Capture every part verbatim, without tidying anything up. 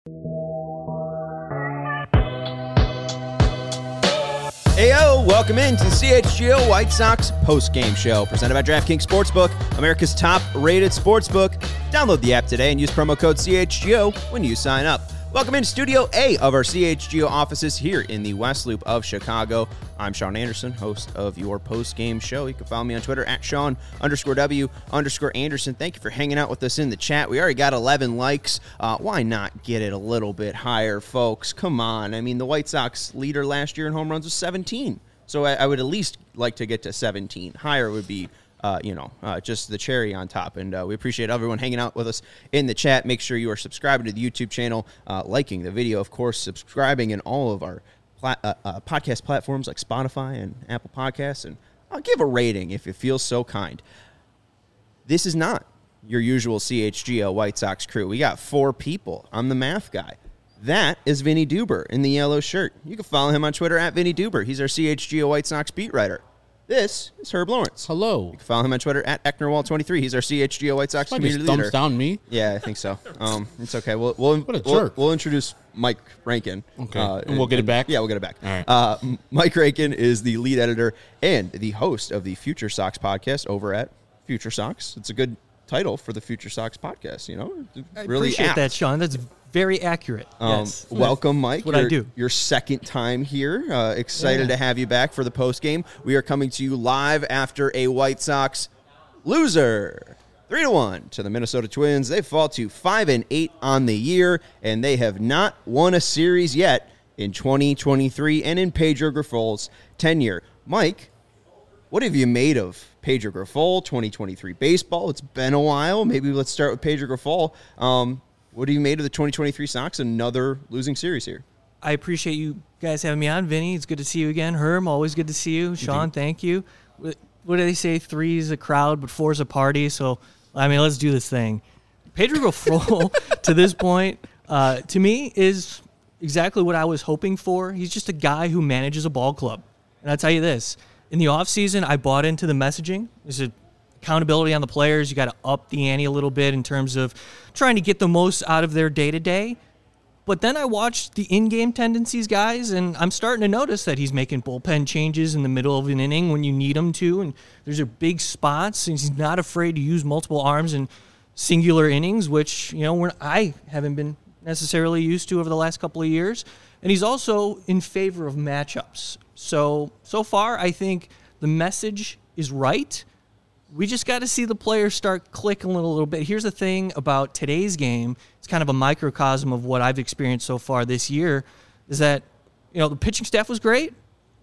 Heyo, welcome into the C H G O White Sox post-game show, presented by DraftKings Sportsbook, America's top-rated sportsbook. Download the app today and use promo code C H G O when you sign up. Welcome into Studio A of our C H G O offices here in the West Loop of Chicago. I'm Sean Anderson, host of your post-game show. You can follow me on Twitter at Sean underscore W underscore Anderson. Thank you for hanging out with us in the chat. We already got eleven likes. Uh, why not get it a little bit higher, folks? Come on. I mean, the White Sox leader last year in home runs was seventeen. So I, I would at least like to get to seventeen. Higher would be Uh, you know, uh, just the cherry on top. And uh, we appreciate everyone hanging out with us in the chat. Make sure you are subscribing to the YouTube channel, uh, liking the video, of course, subscribing in all of our pla- uh, uh, podcast platforms like Spotify and Apple Podcasts. And I'll give a rating if you feel so kind. This is not your usual C H G O White Sox crew. We got four people. I'm the math guy. That is Vinny Duber in the yellow shirt. You can follow him on Twitter at Vinny Duber. He's our C H G O White Sox beat writer. This is Herb Lawrence. Hello. You can follow him on Twitter at Ecknerwall twenty-three. He's our C H G O White Sox Somebody community just leader. thumbs down me. Yeah, I think so. Um, it's okay. We'll we'll, What a we'll, jerk. we'll introduce Mike Rankin. Okay. Uh, and we'll get it back? Yeah, we'll get it back. All right. Uh, Mike Rankin is the lead editor and the host of the Future Sox podcast over at Future Sox. It's a good title for the Future Sox podcast, you know? I really appreciate apt. that, Sean. That's very accurate. Um, yes. Welcome, Mike. That's what I your, do. Your second time here. Uh, excited Yeah. to have you back for the post game. We are coming to you live after a White Sox loser, three to one to the Minnesota Twins. They fall to five and eight on the year, and they have not won a series yet in twenty twenty-three and in Pedro Grifol's tenure. Mike, what have you made of Pedro Grifol, twenty twenty-three baseball? It's been a while. Maybe let's start with Pedro Grifol. Um, What have you made of the twenty twenty-three Sox? Another losing series here. I appreciate you guys having me on, Vinny. It's good to see you again. Herm, always good to see you. Sean, thank you. What what do they say? Three is a crowd, but four is a party. So, I mean, let's do this thing. Pedro Grifol, to this point, uh, to me, is exactly what I was hoping for. He's just a guy who manages a ball club. And I'll tell you this. In the offseason, I bought into the messaging. There's a accountability on the players. You got to up the ante a little bit in terms of trying to get the most out of their day-to-day. But then I watched the in-game tendencies, guys, and I'm starting to notice that he's making bullpen changes in the middle of an inning when you need him to, and there's a big spots, and he's not afraid to use multiple arms in singular innings, which, you know, we're, I haven't been necessarily used to over the last couple of years. And he's also in favor of matchups. So, so far, I think the message is right. We just got to see the players start clicking a little, little bit. Here's the thing about today's game. It's kind of a microcosm of what I've experienced so far this year, is that, you know, the pitching staff was great,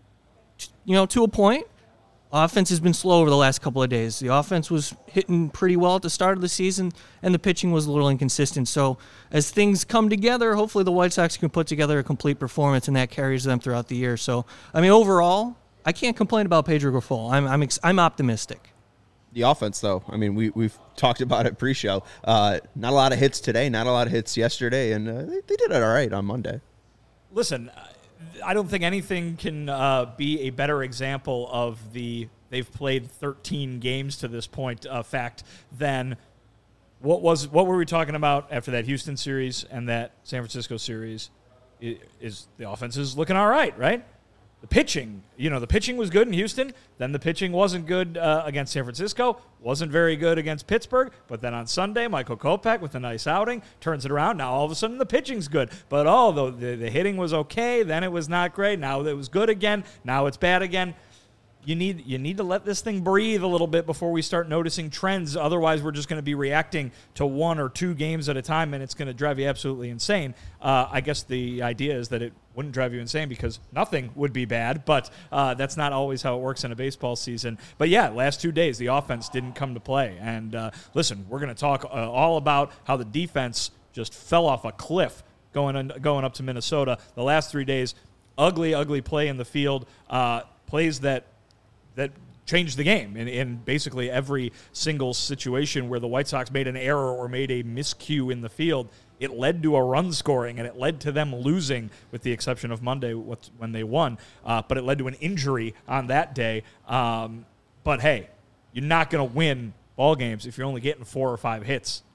you know, to a point. Offense has been slow over the last couple of days. The offense was hitting pretty well at the start of the season, and the pitching was a little inconsistent. So as things come together, hopefully the White Sox can put together a complete performance, and that carries them throughout the year. So, I mean, overall, I can't complain about Pedro Grifol. I'm I'm ex- I'm optimistic. The offense, though, I mean, we, we've talked about it pre-show. Uh, not a lot of hits today, not a lot of hits yesterday, and uh, they, they did it all right on Monday. Listen, I don't think anything can uh, be a better example of the they've played thirteen games to this point uh, fact than what was what were we talking about after that Houston series and that San Francisco series? Is, is the offense is looking all right, right? The pitching, you know, the pitching was good in Houston. Then the pitching wasn't good uh, against San Francisco. Wasn't very good against Pittsburgh. But then on Sunday, Michael Kopech with a nice outing turns it around. Now all of a sudden the pitching's good. But oh, the, the, the hitting was okay. Then it was not great. Now it was good again. Now it's bad again. You need you need to let this thing breathe a little bit before we start noticing trends. Otherwise, we're just going to be reacting to one or two games at a time, and it's going to drive you absolutely insane. Uh, I guess the idea is that it wouldn't drive you insane because nothing would be bad, but uh, that's not always how it works in a baseball season. But, yeah, last two days, the offense didn't come to play. And, uh, listen, we're going to talk uh, all about how the defense just fell off a cliff going, on, going up to Minnesota. The last three days, ugly, ugly play in the field, uh, plays that – that changed the game in, in basically every single situation where the White Sox made an error or made a miscue in the field. It led to a run scoring, and it led to them losing, with the exception of Monday when they won. Uh, but it led to an injury on that day. Um, but, hey, you're not going to win ball games if you're only getting four or five hits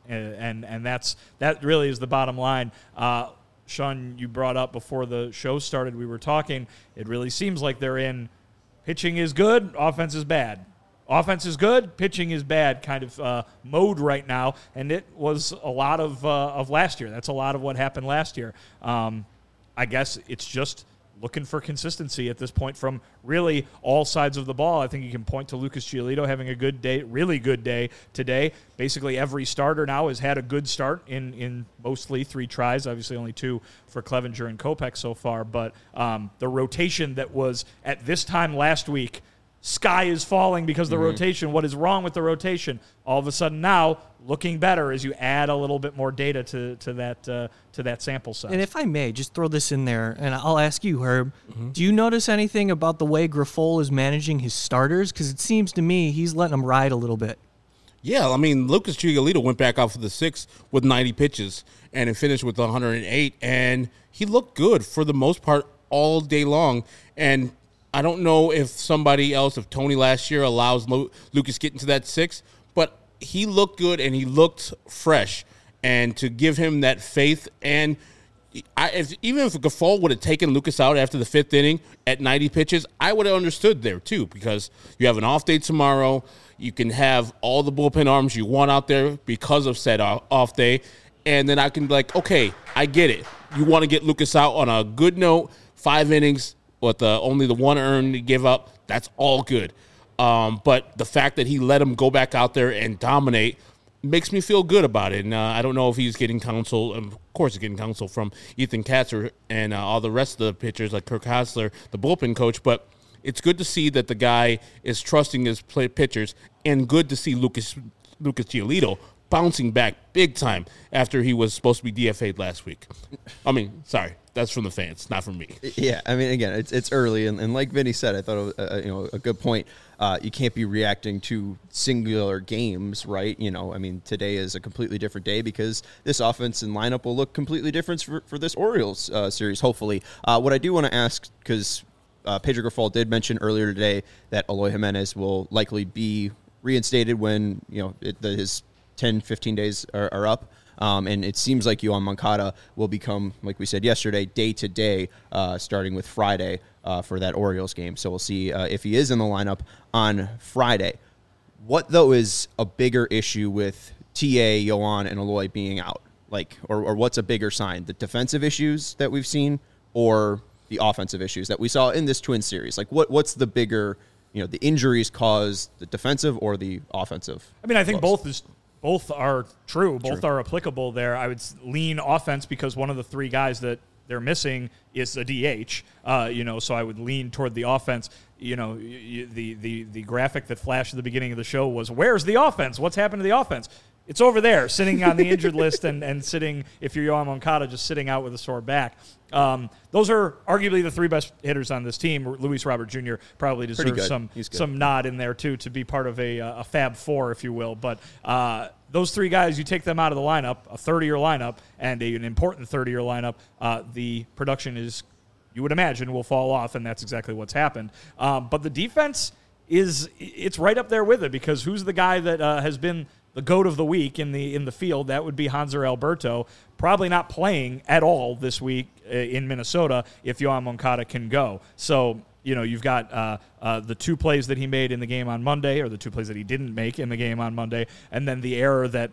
and and, and that's that really is the bottom line. Uh, Sean, you brought up before the show started, we were talking, it really seems like they're in pitching is good, offense is bad. Offense is good, pitching is bad kind of uh, mode right now, and it was a lot of uh, of last year. That's a lot of what happened last year. Um, I guess it's just looking for consistency at this point from really all sides of the ball. I think you can point to Lucas Giolito having a good day, really good day today. Basically every starter now has had a good start in, in mostly three tries, obviously only two for Clevenger and Kopech so far, but um, the rotation that was at this time last week, sky is falling because of the mm-hmm. rotation. What is wrong with the rotation? All of a sudden now, looking better as you add a little bit more data to to that uh, to that sample size. And if I may, just throw this in there, and I'll ask you, Herb, mm-hmm. do you notice anything about the way Grifol is managing his starters? Because it seems to me he's letting them ride a little bit. Yeah, I mean, Lucas Giolito went back out for the sixth with ninety pitches, and it finished with one hundred eight, and he looked good for the most part all day long, and I don't know if somebody else, if Tony last year allows Lu- Lucas get into that six, but he looked good and he looked fresh. And to give him that faith, and I, if, even if Grifol would have taken Lucas out after the fifth inning at ninety pitches, I would have understood there too, because you have an off day tomorrow. You can have all the bullpen arms you want out there because of said off day. And then I can be like, okay, I get it. You want to get Lucas out on a good note, five innings, with the, only the one earned to give up, that's all good. Um, but the fact that he let him go back out there and dominate makes me feel good about it. And uh, I don't know if he's getting counsel. Of course he's getting counsel from Ethan Katzer and uh, all the rest of the pitchers like Kirk Hassler, the bullpen coach. But it's good to see that the guy is trusting his play pitchers, and good to see Lucas Lucas Giolito bouncing back big time after he was supposed to be D F A'd last week. I mean, sorry, that's from the fans, not from me. Yeah, I mean, again, it's it's early, and, and like Vinny said, I thought it was, uh, you know, a good point. Uh, you can't be reacting to singular games, right? You know, I mean, today is a completely different day because this offense and lineup will look completely different for, for this Orioles uh, series, hopefully. Uh, what I do want to ask, because uh, Pedro Grifol did mention earlier today that Eloy Jimenez will likely be reinstated when, you know, it, the, his ten, fifteen days are, are up. Um, and it seems like Yoan Moncada will become, like we said yesterday, day-to-day, uh, starting with Friday uh, for that Orioles game. So we'll see uh, if he is in the lineup on Friday. What, though, is a bigger issue with T A, Yoan, and Eloy being out? Like, or, or what's a bigger sign? The defensive issues that we've seen or the offensive issues that we saw in this Twins series? Like, what what's the bigger, you know, the injuries caused the defensive or the offensive? I mean, I think blows? both is both are true. Both True. are applicable there. I would lean offense because one of the three guys that they're missing is a D H. Uh, you know, so I would lean toward the offense. You know, you, the the the graphic that flashed at the beginning of the show was, "Where's the offense? What's happened to the offense?" It's over there, sitting on the injured list, and, and sitting, if you're Yoan Moncada, just sitting out with a sore back. Um, those are arguably the three best hitters on this team. Luis Robert Junior probably deserves some some nod in there, too, to be part of a, a Fab Four, if you will. But uh, those three guys, you take them out of the lineup, a thirty-year lineup, and a, an important thirty-year lineup, uh, the production is, you would imagine, will fall off, and that's exactly what's happened. Um, but the defense is, it's right up there with it, because who's the guy that uh, has been the GOAT of the week in the in the field? That would be Hanser Alberto, probably not playing at all this week uh, in Minnesota if Yoan Moncada can go. So, you know, you've got uh, uh, the two plays that he made in the game on Monday, or the two plays that he didn't make in the game on Monday, and then the error that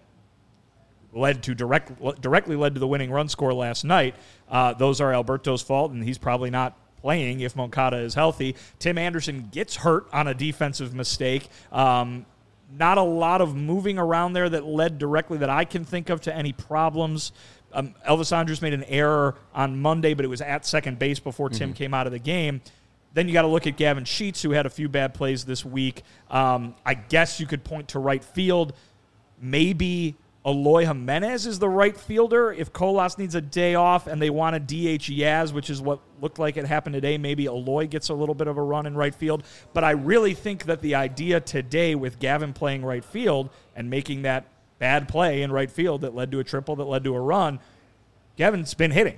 led to direct directly led to the winning run score last night. Uh, those are Alberto's fault, and he's probably not playing if Moncada is healthy. Tim Anderson gets hurt on a defensive mistake. Um, Not a lot of moving around there that led directly that I can think of to any problems. Um, Elvis Andrus made an error on Monday, but it was at second base before mm-hmm. Tim came out of the game. Then you got to look at Gavin Sheets, who had a few bad plays this week. Um, I guess you could point to right field. Maybe Eloy Jimenez is the right fielder. If Colas needs a day off and they want to D H Yaz, which is what looked like it happened today, maybe Eloy gets a little bit of a run in right field. But I really think that the idea today with Gavin playing right field and making that bad play in right field that led to a triple, that led to a run, Gavin's been hitting.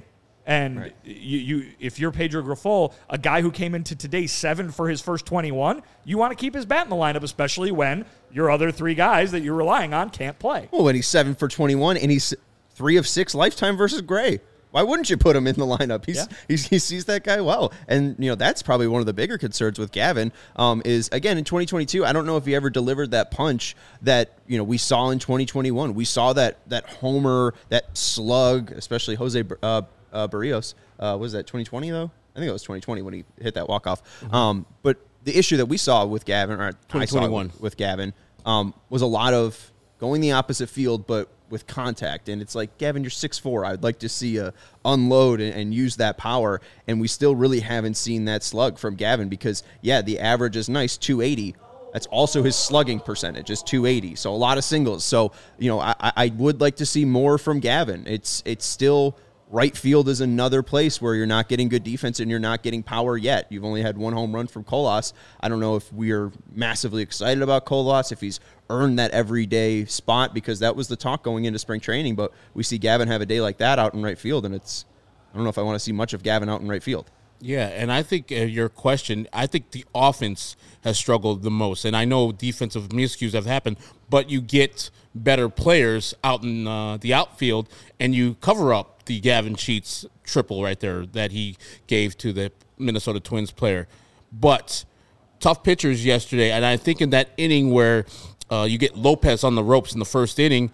And Right. you, you, if you're Pedro Grifol, a guy who came into today seven for his first twenty-one, you want to keep his bat in the lineup, especially when your other three guys that you're relying on can't play. Well, when he's seven for twenty-one and he's three of six lifetime versus Gray. Why wouldn't you put him in the lineup? He's, Yeah. he's he sees that guy well, and you know that's probably one of the bigger concerns with Gavin. Um, is again in twenty twenty-two, I don't know if he ever delivered that punch that you know we saw in twenty twenty-one. We saw that that homer, that slug, especially Jose uh, uh, Barrios. Uh, was that twenty twenty though? I think it was twenty twenty when he hit that walk off. Mm-hmm. Um, but the issue that we saw with Gavin, or twenty twenty-one with, with Gavin, um, was a lot of going the opposite field, but with contact. And it's like, Gavin, you're six foot four. I'd like to see you unload and, and use that power. And we still really haven't seen that slug from Gavin because, yeah, the average is nice, two eighty. That's also his slugging percentage is two eighty. So a lot of singles. So, you know, I, I would like to see more from Gavin. It's it's still right field is another place where you're not getting good defense and you're not getting power yet. You've only had one home run from Colas. I don't know if we're massively excited about Colas, if he's earned that everyday spot, because that was the talk going into spring training. But we see Gavin have a day like that out in right field, and it's I don't know if I want to see much of Gavin out in right field. Yeah, and I think uh, your question, I think the offense has struggled the most. And I know defensive miscues have happened, but you get better players out in uh, the outfield, and you cover up the Gavin Sheets triple right there that he gave to the Minnesota Twins player. But tough pitchers yesterday, and I think in that inning where uh, you get Lopez on the ropes in the first inning,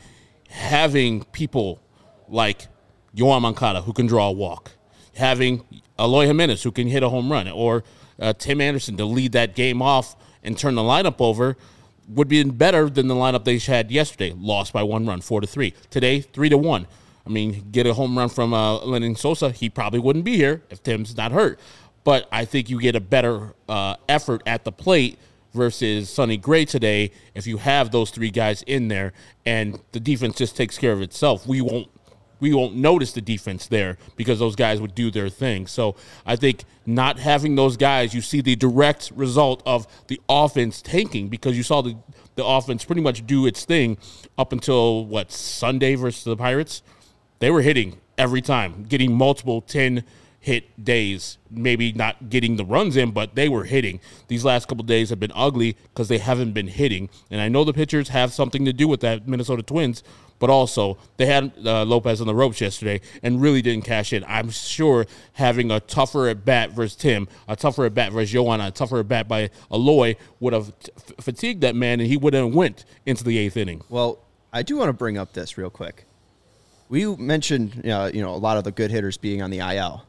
having people like Yoan Moncada who can draw a walk, having Eloy Jimenez who can hit a home run, or uh, Tim Anderson to lead that game off and turn the lineup over would be better than the lineup they had yesterday. Lost by one run, four to three. Today, three to one. I mean, get a home run from uh, Lenyn Sosa, he probably wouldn't be here if Tim's not hurt. But I think you get a better uh, effort at the plate versus Sonny Gray today if you have those three guys in there, and the defense just takes care of itself. We won't we won't notice the defense there because those guys would do their thing. So I think not having those guys, you see the direct result of the offense tanking, because you saw the, the offense pretty much do its thing up until, what, Sunday versus the Pirates? They were hitting every time, getting multiple ten-hit days, maybe not getting the runs in, but they were hitting. These last couple of days have been ugly because they haven't been hitting. And I know the pitchers have something to do with that, Minnesota Twins, but also they had uh, Lopez on the ropes yesterday and really didn't cash in. I'm sure having a tougher at-bat versus Tim, a tougher at-bat versus Yoan, a tougher at-bat by Eloy would have t- fatigued that man, and he would have went into the eighth inning. Well, I do want to bring up this real quick. We mentioned, uh, you know, a lot of the good hitters being on the I L.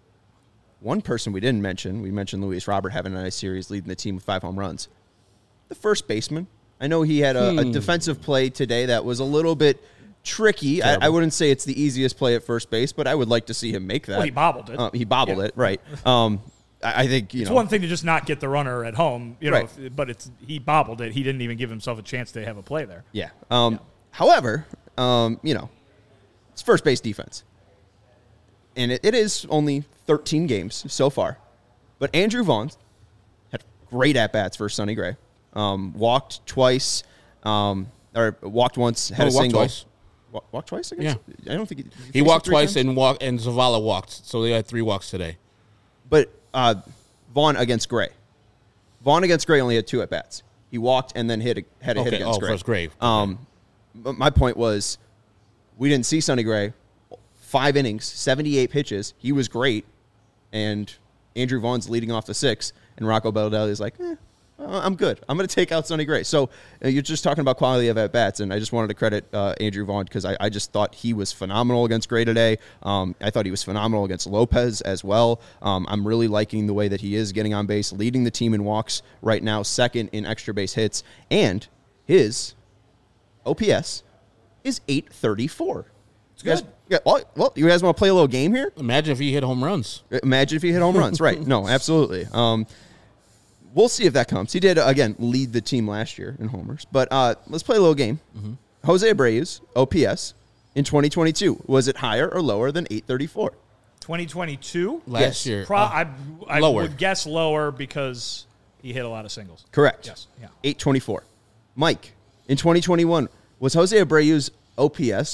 One person we didn't mention, we mentioned Luis Robert having a nice series, leading the team with five home runs. The first baseman. I know he had a, hmm. a defensive play today that was a little bit tricky. I, I wouldn't say it's the easiest play at first base, but I would like to see him make that. Well, he bobbled it. Uh, he bobbled Yeah. it, right. Um, I, I think, you It's know. one thing to just not get the runner at home, you know, Right. if, but it's he bobbled it. He didn't even give himself a chance to have a play there. Yeah. Um, however, um, you know, it's first base defense. And it, it is only thirteen games so far. But Andrew Vaughn had great at-bats for Sonny Gray. Um, walked twice, um, or walked once, had Oh, a walked single. twice. Wa- walked twice against? I don't think he, He faced walked three twice times? and walk, and Zavala walked, so they had three walks today. But uh, Vaughn against Gray. Vaughn against Gray only had two at-bats. He walked and then hit a, had a hit Okay. against Oh, Gray. versus Gray. Okay. Um, but my point was, we didn't see Sonny Gray. Five innings, seventy-eight pitches. He was great. And Andrew Vaughn's leading off the six. And Rocco Baldelli is like, eh, I'm good. I'm going to take out Sonny Gray. So uh, you're just talking about quality of at-bats. And I just wanted to credit uh, Andrew Vaughn because I, I just thought he was phenomenal against Gray today. Um, I thought he was phenomenal against Lopez as well. Um, I'm really liking the way that he is getting on base, leading the team in walks right now, second in extra base hits. And his O P S is eight thirty-four. It's good. Yeah, well, well, you guys want to play a little game here? Imagine if he hit home runs. Imagine if he hit home runs. Right. No, absolutely. Um, we'll see if that comes. He did, again, lead the team last year in homers. But uh, let's play a little game. Mm-hmm. Jose Abreu's O P S in twenty twenty-two, was it higher or lower than eight thirty-four? twenty twenty-two? Last Yes. year. Pro- uh, I, I lower. would guess lower because he hit a lot of singles. Correct. Yes. Yeah. eight twenty-four. Mike, in twenty twenty-one, was Jose Abreu's O P S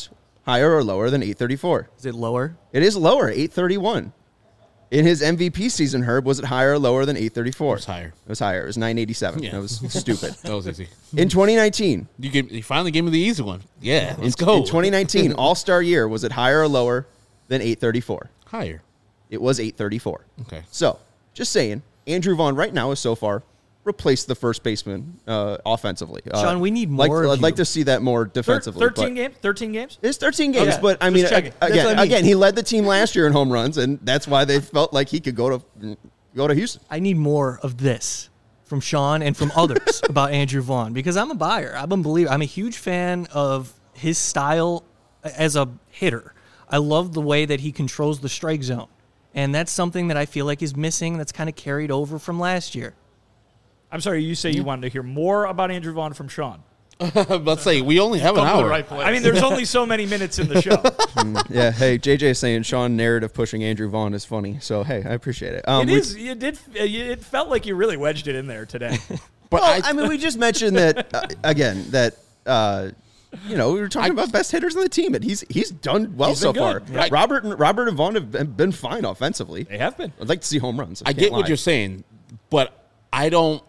higher or lower than eight thirty-four? Is it lower? It is lower, eight thirty-one. In his M V P season, Herb, was it higher or lower than eight thirty-four? It was higher. It was higher. It was nine eighty-seven. Yeah. That was stupid. That was easy. In twenty nineteen, You, gave, you finally gave me the easy one. Yeah, let's in, go. in twenty nineteen, All-Star year, was it higher or lower than eight thirty-four? Higher. It was eight thirty-four. Okay. So, just saying, Andrew Vaughn right now is so far replaced the first baseman uh, offensively. Uh, Sean, we need like, more of I'd like you. to see that more Thir- defensively. thirteen but- games. Thirteen games. It's thirteen games, Okay. but I Just mean, checking. ag- That's again, what I mean. again, he led the team last year in home runs, and that's why they felt like he could go to go to Houston. I need more of this from Sean and from others about Andrew Vaughn because I'm a buyer. I'm a believer. I'm a huge fan of his style as a hitter. I love the way that he controls the strike zone, and that's something that I feel like is missing. That's kind of carried over from last year. I'm sorry. You say you wanted to hear more about Andrew Vaughn from Sean. Let's say we only have an Come to the hour. right place. I mean, there's only so many minutes in the show. Yeah, hey, J J is saying Sean narrative pushing Andrew Vaughn is funny. So hey, I appreciate it. Um, It we- is. You did. It felt like you really wedged it in there today. But Well, I, I mean, we just mentioned that uh, again. That uh, you know, we were talking about best hitters on the team, and he's he's done well He's so been far. good. Right. Robert and Robert and Vaughn have been, been fine offensively. They have been. I'd like to see home runs. I can't get what lie. you're saying, but I don't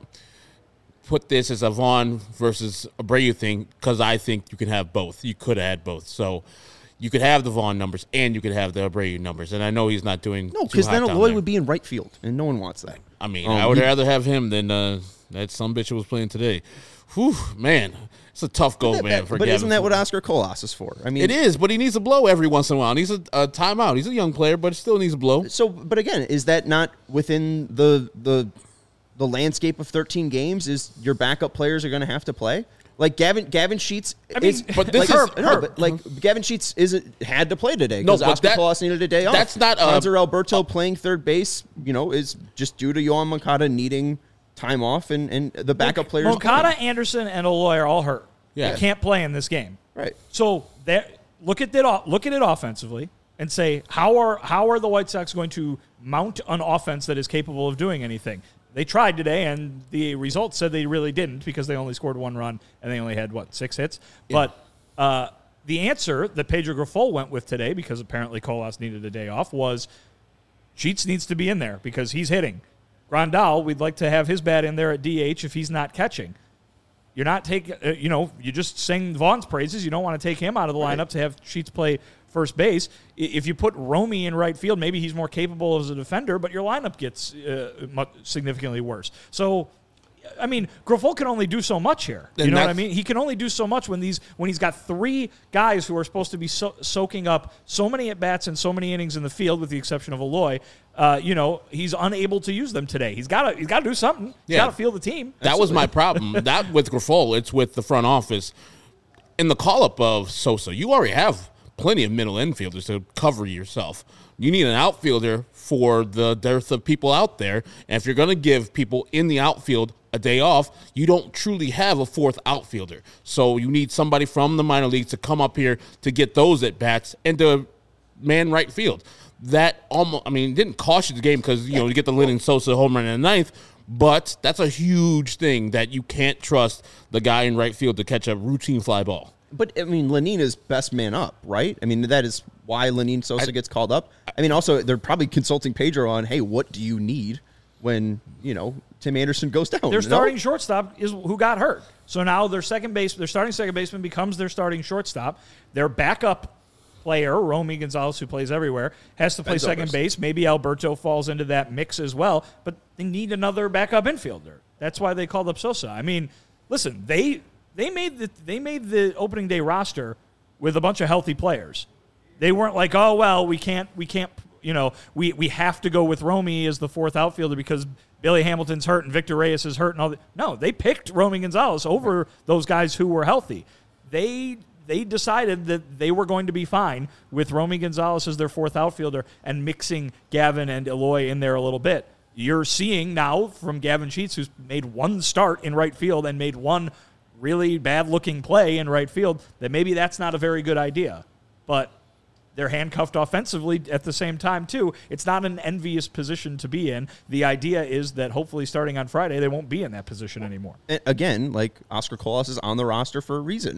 put this as a Vaughn versus Abreu thing because I think you can have both. You could have had both. So you could have the Vaughn numbers and you could have the Abreu numbers. And I know he's not doing No, too because hot then down Eloy there. would be in right field, and no one wants that. I mean, Um, I would he- rather have him than uh, that some bitch who was playing today. Whew, man, it's a tough goal, That- man. that- For but Gavin isn't that what Fulton. Oscar Colas is for? I mean, It is, but he needs a blow every once in a while. He needs a, a timeout. He's a young player, but still needs a blow. So, but again, is that not within the the the landscape of thirteen games? Is your backup players are going to have to play? Like Gavin Gavin Sheets, I mean, is, but this like, is- Herb, no, Herb. but like Gavin Sheets isn't had to play today No, because but Oscar that- Colas needed a day off. that's not, uh, Hanser Alberto playing third base. You know, is just due to Yohan Moncada needing time off, and, and the backup players. Moncada, playing. Anderson, and Eloy are all hurt. Yeah. They can't play in this game. Right. So that look at that. Look at it offensively and say how are how are the White Sox going to mount an offense that is capable of doing anything? They tried today, and the results said they really didn't because they only scored one run and they only had what six hits. But uh, the answer that Pedro Grifol went with today, because apparently Colas needed a day off, was Sheets needs to be in there because he's hitting. Grandal, we'd like to have his bat in there at D H if he's not catching. You're not taking, uh, you know, you just sing Vaughn's praises. You don't want to take him out of the lineup to have Sheets play first base. I- If you put Romy in right field, maybe he's more capable as a defender, but your lineup gets uh, much, significantly worse. So, I mean, Grifol can only do so much here. You And know what I that's- mean? He can only do so much when these when he's got three guys who are supposed to be so, soaking up so many at bats and so many innings in the field, with the exception of Eloy. Uh, you know, he's unable to use them today. He's got to he's got to do something. He's Yeah. got to field the team. That was my problem. That with Grifol, it's with the front office. In the call-up of Sosa, you already have plenty of middle infielders to cover yourself. You need an outfielder for the dearth of people out there. And if you're going to give people in the outfield a day off, you don't truly have a fourth outfielder. So you need somebody from the minor leagues to come up here to get those at-bats and to man right field. That almost, I mean, it didn't cost you the game because, you know, you get the Lennon Sosa home run in the ninth, but that's a huge thing that you can't trust the guy in right field to catch a routine fly ball. But, I mean, Lenin is best man up, right? I mean, that is why Lenin Sosa gets called up. I mean, also, they're probably consulting Pedro on, hey, what do you need when, you know, Tim Anderson goes down? Their you know? starting shortstop is who got hurt. So now their second base, their starting second baseman becomes their starting shortstop. Their backup player, Romy Gonzalez, who plays everywhere, has to play Ben second Zobrist. base. Maybe Alberto falls into that mix as well, but they need another backup infielder. That's why they called up Sosa. I mean, listen, they they made the they made the opening day roster with a bunch of healthy players. They weren't like, oh well, we can't we can't you know we we have to go with Romy as the fourth outfielder because Billy Hamilton's hurt and Victor Reyes is hurt and all that. No, they picked Romy Gonzalez over those guys who were healthy. They they decided that they were going to be fine with Romy Gonzalez as their fourth outfielder and mixing Gavin and Eloy in there a little bit. You're seeing now from Gavin Sheets, who's made one start in right field and made one really bad-looking play in right field, that maybe that's not a very good idea. But they're handcuffed offensively at the same time, too. It's not an envious position to be in. The idea is that hopefully starting on Friday, they won't be in that position anymore. And again, like Oscar Colas is on the roster for a reason, and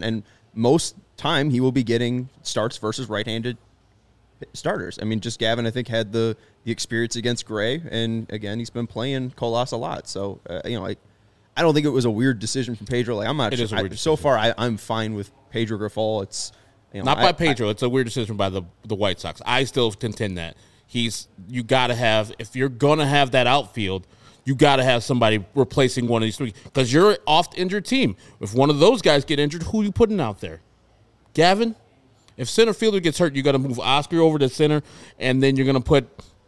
most time he will be getting starts versus right-handed starters. I mean, just Gavin, I think, had the, the experience against Gray, and again, he's been playing Colas a lot. So, uh, you know, I, I don't think it was a weird decision from Pedro. Like, I'm not It sure. is a weird I, so far, I, I'm fine with Pedro Grifol. It's you know, Not I, by Pedro. I, it's a weird decision by the the White Sox. I still contend that he's you got to have if you're gonna have that outfield, you got to have somebody replacing one of these three because you're oft injured team. If one of those guys get injured, who are you putting out there? Gavin. If center fielder gets hurt, you got to move Oscar over to center, and then you're gonna put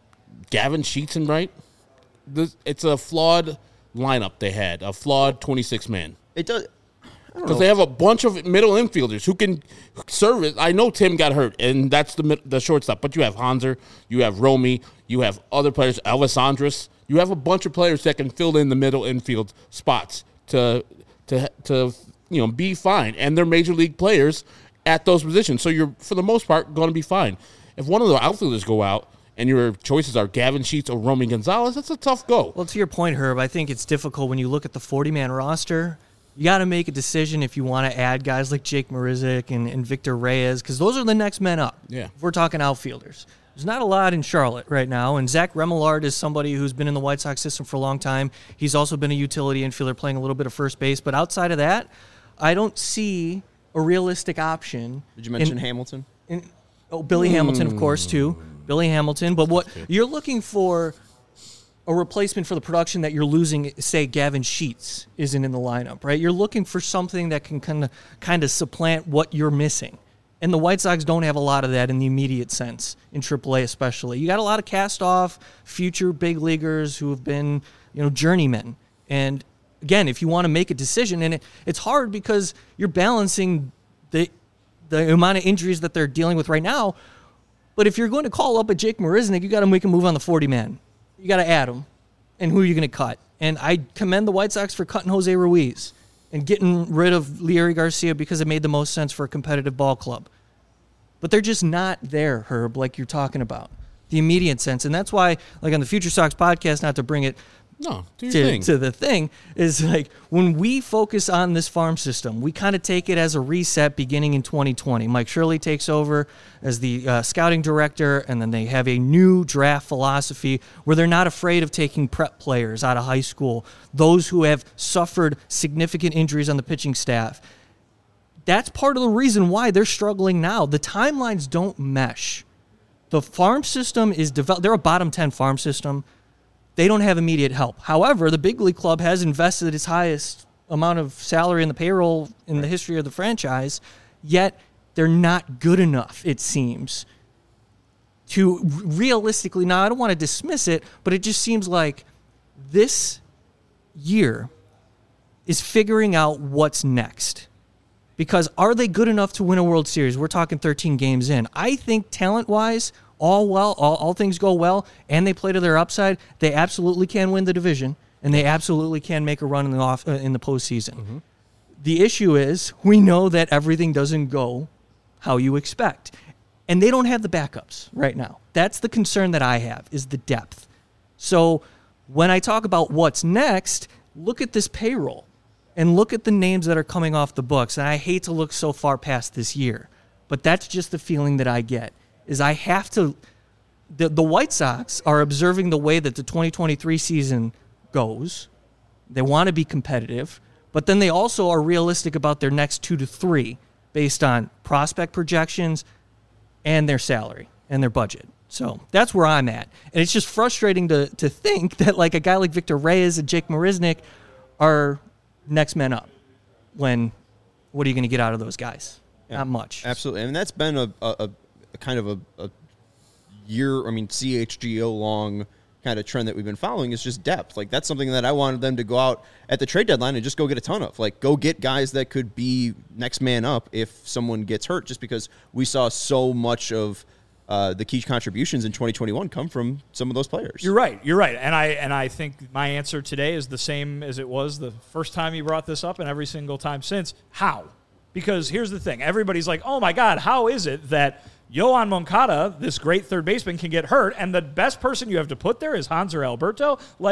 Gavin Sheets in right. This, it's a flawed lineup they had, a flawed twenty-six man. it does. Because they have a bunch of middle infielders who can serve it. I know Tim got hurt, and that's the the shortstop. But you have Hanser, you have Romy, you have other players, Elvis Andrus. You have a bunch of players that can fill in the middle infield spots to to to you know be fine, and they're major league players at those positions. So you're for the most part going to be fine. If one of the outfielders go out and your choices are Gavin Sheets or Romy Gonzalez, that's a tough go. Well, to your point, Herb, I think it's difficult when you look at the forty-man roster. You got to make a decision if you want to add guys like Jake Marisnick and, and Victor Reyes, because those are the next men up. Yeah. If we're talking outfielders. There's not a lot in Charlotte right now, and Zach Remillard is somebody who's been in the White Sox system for a long time. He's also been a utility infielder playing a little bit of first base, but outside of that, I don't see a realistic option. Did you mention in, Hamilton? in, oh, Billy mm. Hamilton, of course, too. Billy Hamilton, but what you're looking for a replacement for the production that you're losing, say Gavin Sheets isn't in the lineup, right? You're looking for something that can kind of kind of supplant what you're missing. And the White Sox don't have a lot of that in the immediate sense, in triple A especially. You got a lot of cast-off future big leaguers who have been, you know, journeymen. And again, if you want to make a decision, and it, it's hard because you're balancing the the amount of injuries that they're dealing with right now. But if you're going to call up a Jake Marisnick, you got to make a move on the forty-man. You got to add him. And who are you going to cut? And I commend the White Sox for cutting Jose Ruiz and getting rid of Leury Garcia because it made the most sense for a competitive ball club. But they're just not there, Herb, like you're talking about. The immediate sense. And that's why, like on the Future Sox podcast, not to bring it No, do your to, thing. to the thing, is like when we focus on this farm system, we kind of take it as a reset beginning in twenty twenty. Mike Shirley takes over as the uh, scouting director, and then they have a new draft philosophy where they're not afraid of taking prep players out of high school, those who have suffered significant injuries on the pitching staff. That's part of the reason why they're struggling now. The timelines don't mesh. The farm system is developed. They're a bottom ten farm system. They don't have immediate help. However, the big league club has invested its highest amount of salary in the payroll in the history of the franchise, yet they're not good enough, it seems, to realistically, now I don't want to dismiss it, but it just seems like this year is figuring out what's next. Because are they good enough to win a World Series? We're talking thirteen games in. I think talent-wise, all well, all, all things go well, and they play to their upside, they absolutely can win the division, and they absolutely can make a run in the off uh, in the postseason. Mm-hmm. The issue is we know that everything doesn't go how you expect, and they don't have the backups right now. That's the concern that I have, is the depth. So when I talk about what's next, look at this payroll, and look at the names that are coming off the books, and I hate to look so far past this year, but that's just the feeling that I get. Is I have to the, – the White Sox are observing the way that the twenty twenty-three season goes. They want to be competitive, but then they also are realistic about their next two to three based on prospect projections and their salary and their budget. So that's where I'm at. And it's just frustrating to to think that like a guy like Victor Reyes and Jake Marisnick are next men up when what are you going to get out of those guys? Yeah, not much. Absolutely. I mean, that's been a, a, a kind of a, a year, I mean, C H G O long kind of trend that we've been following is just depth. Like, that's something that I wanted them to go out at the trade deadline and just go get a ton of. Like, go get guys that could be next man up if someone gets hurt, just because we saw so much of uh, the key contributions in twenty twenty-one come from some of those players. You're right. You're right. And I and I think my answer today is the same as it was the first time you brought this up and every single time since. How? Because here's the thing. Everybody's like, oh, my God, how is it that Yoan Moncada, this great third baseman, can get hurt, and the best person you have to put there is Hanser Alberto? Like,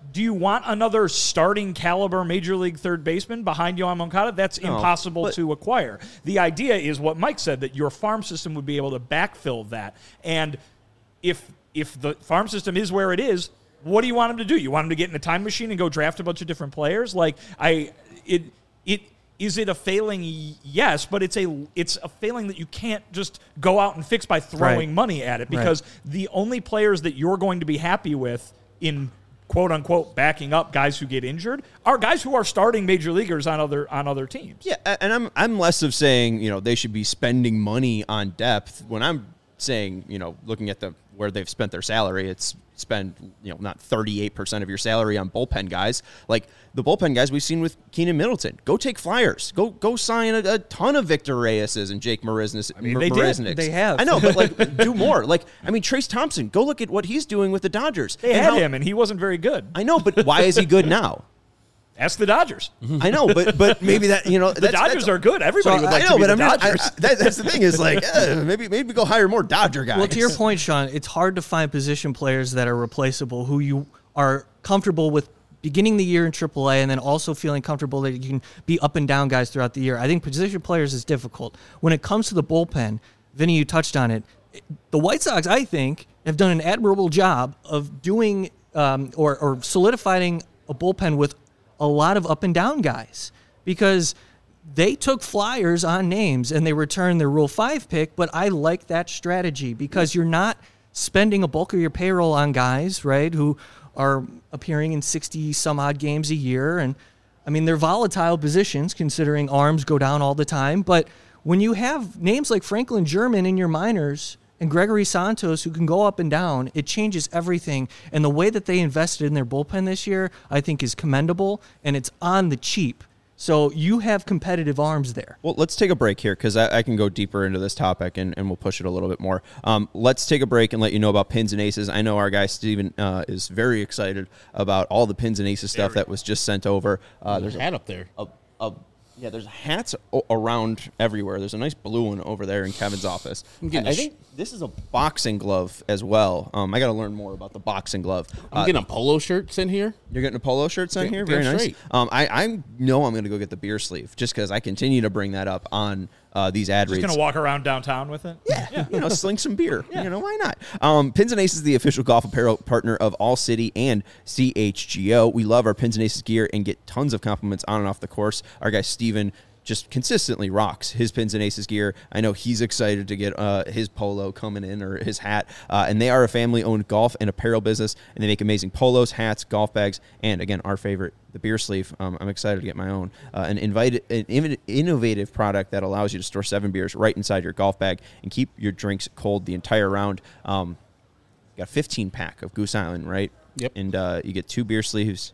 do you want another starting caliber major league third baseman behind Yoan Moncada? That's No, impossible but- to acquire. The idea is what Mike said, that your farm system would be able to backfill that. And if if the farm system is where it is, what do you want him to do? You want him to get in a time machine and go draft a bunch of different players? Like I it it is it a failing? Yes, but it's a it's a failing that you can't just go out and fix by throwing Right. money at it, because Right. the only players that you're going to be happy with in quote unquote backing up guys who get injured are guys who are starting major leaguers on other on other teams. Yeah, a- and I'm I'm less of saying, you know, they should be spending money on depth. When I'm saying, you know, looking at the where they've spent their salary, it's spend, you know, not thirty-eight percent of your salary on bullpen guys. Like the bullpen guys we've seen with Keenan Middleton. Go take flyers. Go go sign a, a ton of Victor Reyeses and Jake Marisniks. I mean, they did. They have. I know, but like do more. Like, I mean, Trace Thompson, go look at what he's doing with the Dodgers. They And had how- him, and he wasn't very good. I know, but why is he good now? Ask the Dodgers. I know, but but maybe that, you know, The Dodgers are good. Everybody would like I know, to be but the I mean, I, Dodgers. I, that, that's the thing is like eh, maybe maybe go hire more Dodger guys. Well, to your point, Sean, it's hard to find position players that are replaceable who you are comfortable with beginning the year in triple A and then also feeling comfortable that you can be up and down guys throughout the year. I think position players is difficult. When it comes to the bullpen, Vinny, you touched on it. The White Sox, I think, have done an admirable job of doing um, or, or solidifying a bullpen with a lot of up and down guys, because they took flyers on names and they returned their Rule five pick, but I like that strategy because you're not spending a bulk of your payroll on guys, right, who are appearing in sixty some odd games a year. And I mean, they're volatile positions considering arms go down all the time. But when you have names like Franklin German in your minors and Gregory Santos who can go up and down, it changes everything. And the way that they invested in their bullpen this year, I think, is commendable, and it's on the cheap. So you have competitive arms there. Well, let's take a break here because I, I can go deeper into this topic and, and we'll push it a little bit more. Um, let's take a break and let you know about Pins and Aces. I know our guy Steven uh, is very excited about all the Pins and Aces stuff that was just sent over. Uh, There's there's a hat up there. a, a yeah, there's hats o- around everywhere. There's a nice blue one over there in Kevin's office. I'm I, getting I a sh- think this is a boxing glove as well. Um, I got to learn more about the boxing glove. I'm Uh, getting a polo shirt sent here. You're getting a polo shirt sent Damn- here? damn Very nice. straight. Um, I, I know I'm going to go get the beer sleeve just because I continue to bring that up on uh, these ad Just reads. going to walk around downtown with it? Yeah, you know, sling some beer. You know, why not? Um, Pins and Aces is the official golf apparel partner of All City and C H G O. We love our Pins and Aces gear and get tons of compliments on and off the course. Our guy Steven just consistently rocks his Pins and Aces gear. I know he's excited to get uh, his polo coming in or his hat. Uh, and they are a family-owned golf and apparel business, and they make amazing polos, hats, golf bags, and, again, our favorite, the beer sleeve. Um, I'm excited to get my own. Uh, an, invite, an inno- innovative product that allows you to store seven beers right inside your golf bag and keep your drinks cold the entire round. Um, got a fifteen-pack of Goose Island, right? Yep. And uh, you get two beer sleeves,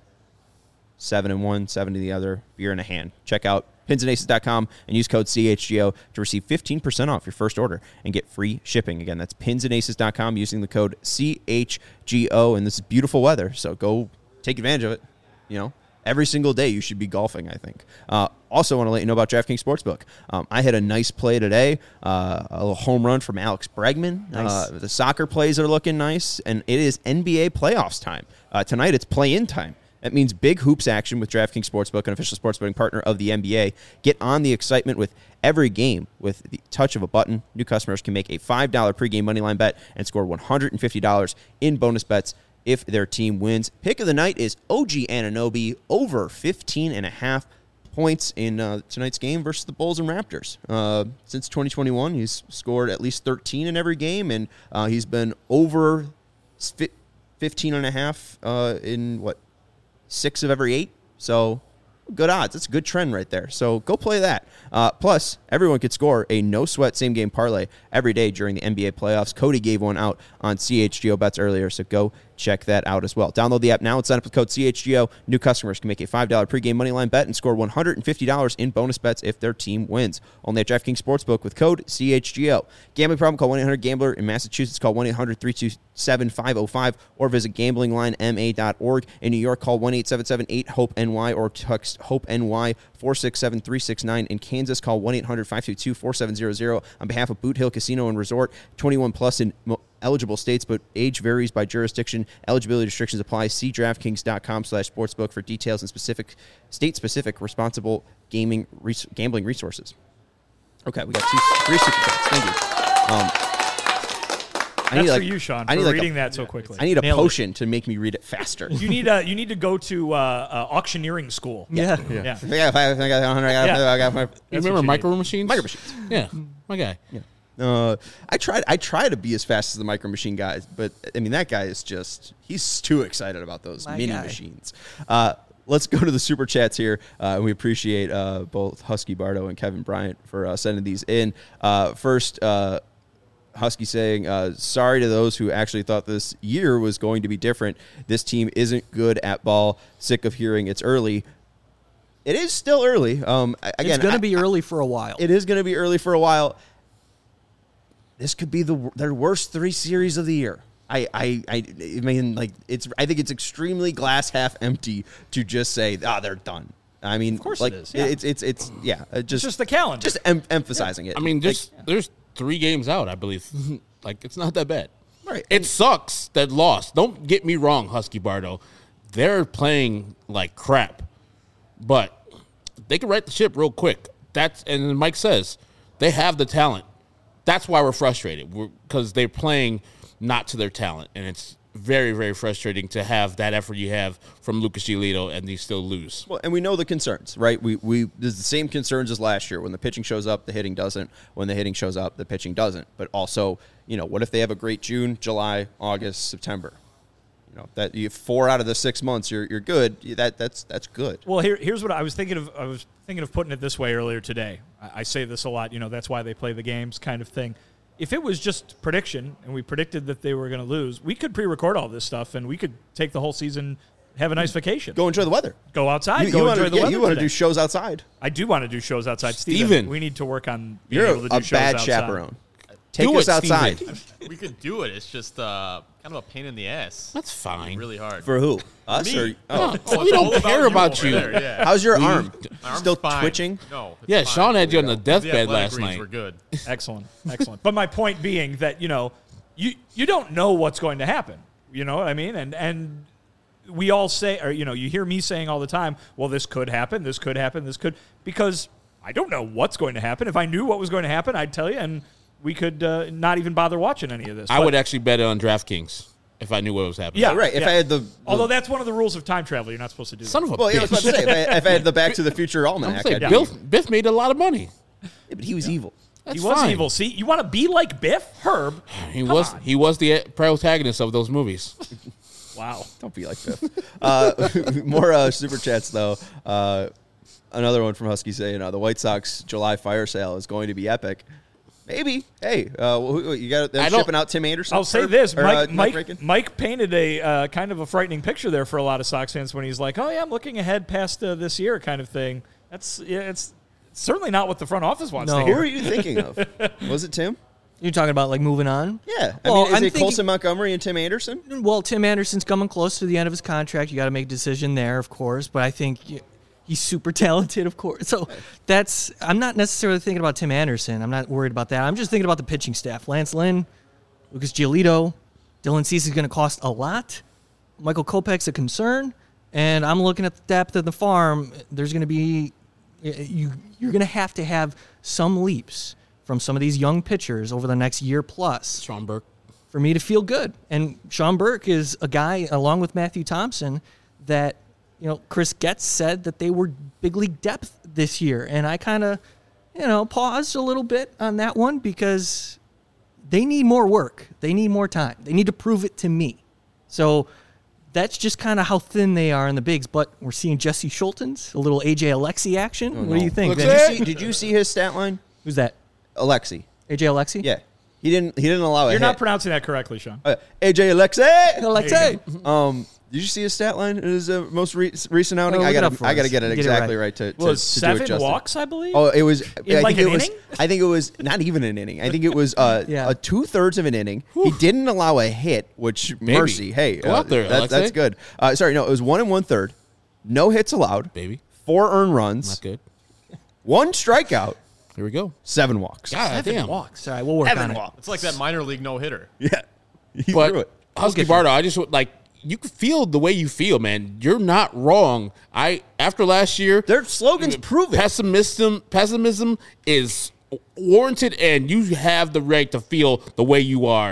seven in one, seven in the other, beer in a hand. Check out pins and aces dot com and use code C H G O to receive fifteen percent off your first order and get free shipping. Again, that's pins and aces dot com using the code C H G O. And this is beautiful weather, so go take advantage of it. You know, every single day you should be golfing, I think. Uh, also want to let you know about DraftKings Sportsbook. Um, I had a nice play today, uh, a little home run from Alex Bregman. Nice. Uh, the soccer plays are looking nice, and it is N B A playoffs time. Uh, tonight it's play-in time. That means big hoops action with DraftKings Sportsbook, an official sports betting partner of the N B A. Get on the excitement with every game with the touch of a button. New customers can make a five dollar pregame moneyline bet and score one hundred fifty dollars in bonus bets if their team wins. Pick of the night is O G Anunoby over fifteen and a half points in uh, tonight's game versus the Bulls and Raptors. Uh, since twenty twenty-one, he's scored at least thirteen in every game, and uh, he's been over fifteen and a half uh, in, what, six of every eight. So good odds. That's a good trend right there. So go play that. Uh, plus, everyone could score a no-sweat same-game parlay every day during the N B A playoffs. Cody gave one out on C H G O Bets earlier, so go check that out as well. Download the app now and sign up with code C H G O. New customers can make a five dollar pregame moneyline bet and score one hundred fifty dollars in bonus bets if their team wins. Only at DraftKings Sportsbook with code C H G O. Gambling problem? Call one eight hundred gambler. In Massachusetts, call one eight hundred three two seven five oh five or visit gambling line m a dot org. In New York, call one eight seven seven eight hope N Y or text HOPE-NY four six seven three six nine. In Kansas, call one eight hundred five two two four seven zero zero. On behalf of Boot Hill Casino and Resort, twenty-one plus in eligible states, but age varies by jurisdiction. Eligibility restrictions apply. See DraftKings.com slash sportsbook for details and specific state-specific responsible gaming res- gambling resources. Okay, we got two, three super chats. Thank you. Um, I That's need, like, for you, Sean, I for need like reading a, that so quickly. I need a Nailed it. potion to make me read it faster. You need uh, you need to go to uh, uh, auctioneering school. Yeah. Yeah. I got five, I got one hundred, I got, Yeah. I got five. You That's remember what you micro machines? Micro machines. Yeah, my guy. Uh, I tried. I try to be as fast as the Micro Machine guys, but I mean that guy is just—he's too excited about those My mini guy. machines. Uh, let's go to the super chats here. Uh, we appreciate uh, both Husky Bardo and Kevin Bryant for uh, sending these in. Uh, first, uh, Husky saying, uh, "Sorry to those who actually thought this year was going to be different. This team isn't good at ball. Sick of hearing it's early. It is still early. Um, I- again, It's going I- to be early for a while. It is going to be early for a while. This could be the their worst three series of the year. I, I, I, I mean, like it's. I think it's extremely glass half empty to just say, ah, they're done. I mean, of course like, it is, yeah. It's, it's, it's, yeah. uh, Just, It's just the calendar. just em- emphasizing it. I mean, Like, there's there's three games out, I believe. Like it's not that bad. Right. It sucks that lost. Don't get me wrong, Husky Bardo. They're playing like crap, but they can right the ship real quick. That's and Mike says they have the talent. That's why we're frustrated because they're playing not to their talent, and it's very, very frustrating to have that effort you have from Lucas Giolito and they still lose. Well, and we know the concerns, right? We we there's the same concerns as last year. When the pitching shows up, the hitting doesn't. When the hitting shows up, the pitching doesn't. But also, you know, what if they have a great June, July, August, September? You know, that you four out of the six months you're you're good. That that's that's good. Well, here, here's what I was thinking of. I was thinking of putting it this way earlier today. I, I say this a lot. You know, that's why they play the games, kind of thing. If it was just prediction and we predicted that they were going to lose, we could pre-record all this stuff and we could take the whole season, have a nice vacation, Go enjoy the weather. go outside, You, go you enjoy wanna, the yeah, weather. you want to today. do shows outside. I do want to do shows outside, Steven. Steven. We need to work on being You're able to do a shows bad outside. chaperone. Take Do us it, outside. Steven. We could do it. It's just uh, kind of a pain in the ass. That's fine. Really hard. For who? Us Me. or oh. Oh, we it's don't all care you about over you. there, yeah. How's your We- arm? My arm's Still fine. twitching? No. it's Yeah, fine. Sean had you on the The deathbed athletic last greens night. were good. Excellent, excellent. But my point being that, you know, you you don't know what's going to happen. You know what I mean? And and we all say, or you know, you hear me saying all the time, well, this could happen, this could happen, this could, because I don't know what's going to happen. If I knew what was going to happen, I'd tell you, and we could uh, not even bother watching any of this. I But- would actually bet it on DraftKings if I knew what was happening. Yeah, Right. If yeah. I had the, the Although that's one of the rules of time travel, you're not supposed to do Son that. of a well, yeah, I was about bitch. to say if I, if I had the Back to the Future I'm almanac, saying, I'd be- Bill, Biff made a lot of money. Yeah, but he was evil. That's He was fine. evil. See, you want to be like Biff, Herb. He Come was on. he was the protagonist of those movies. Wow. Don't be like Biff. uh, more uh, super chats though. Uh, another one from Husky saying uh, the White Sox July fire sale is going to be epic. Maybe. Hey, uh, who- who- you got I them don't- shipping out Tim Anderson. I'll say or- this: or, Mike, uh, Mike, Reagan? Mike painted a uh, kind of a frightening picture there for a lot of Sox fans when he's like, "Oh yeah, I'm looking ahead past uh, this year," kind of thing. That's yeah, it's certainly not what the front office wants No. to Who hear. are you thinking of? Was it Tim? You're talking about like moving on? Yeah. I Well, mean, is I'm it thinking- Colson Montgomery and Tim Anderson? Well, Tim Anderson's coming close to the end of his contract. You got to make a decision there, of course. But I think y- he's super talented, of course. So that's I'm not necessarily thinking about Tim Anderson. I'm not worried about that. I'm just thinking about the pitching staff: Lance Lynn, Lucas Giolito, Dylan Cease is going to cost a lot. Michael Kopech's a concern, and I'm looking at the depth of the farm. There's going to be you. You're going to have to have some leaps from some of these young pitchers over the next year plus Sean Burke. for me to feel good. And Sean Burke is a guy, along with Matthew Thompson, that, you know, Chris Getz said that they were big league depth this year. And I kind of, you know, paused a little bit on that one because they need more work. They need more time. They need to prove it to me. So that's just kind of how thin they are in the bigs. But we're seeing Jesse Schultens, a little A J Alexi action. What do you think, Looks Vinny? Did it. you, see, did you see his stat line? Who's that? Alexi. A J Alexi? Yeah. He didn't he didn't allow a You're hit. not pronouncing that correctly, Sean. uh, A J Alexi. Alexi. Um, did you see his stat line in his uh, most re- recent outing? Oh, I look it got up to for I got to us. get it Get it exactly right. right, to, to, It was to do it seven justice. walks, I believe. Oh, it was. I like think an it was. inning? I think it was not even an inning. I think it was uh, Yeah. a two thirds of an inning. He didn't allow a hit, which Maybe. mercy. Hey, Go uh, out there, that's, that's Alexei. good. Uh, sorry, no, it was one and one third. No hits allowed. Baby. Four earned runs. Not good. One strikeout. Here we go. Seven walks. God damn. Walks. All right, we'll work Seven on it. walks. It's like that minor league no hitter. Yeah. He but threw it. Husky Bardo, I just like you can feel the way you feel, man. You're not wrong. I after last year, Their slogans prove it. pessimism pessimism is warranted, and you have the right to feel the way you are.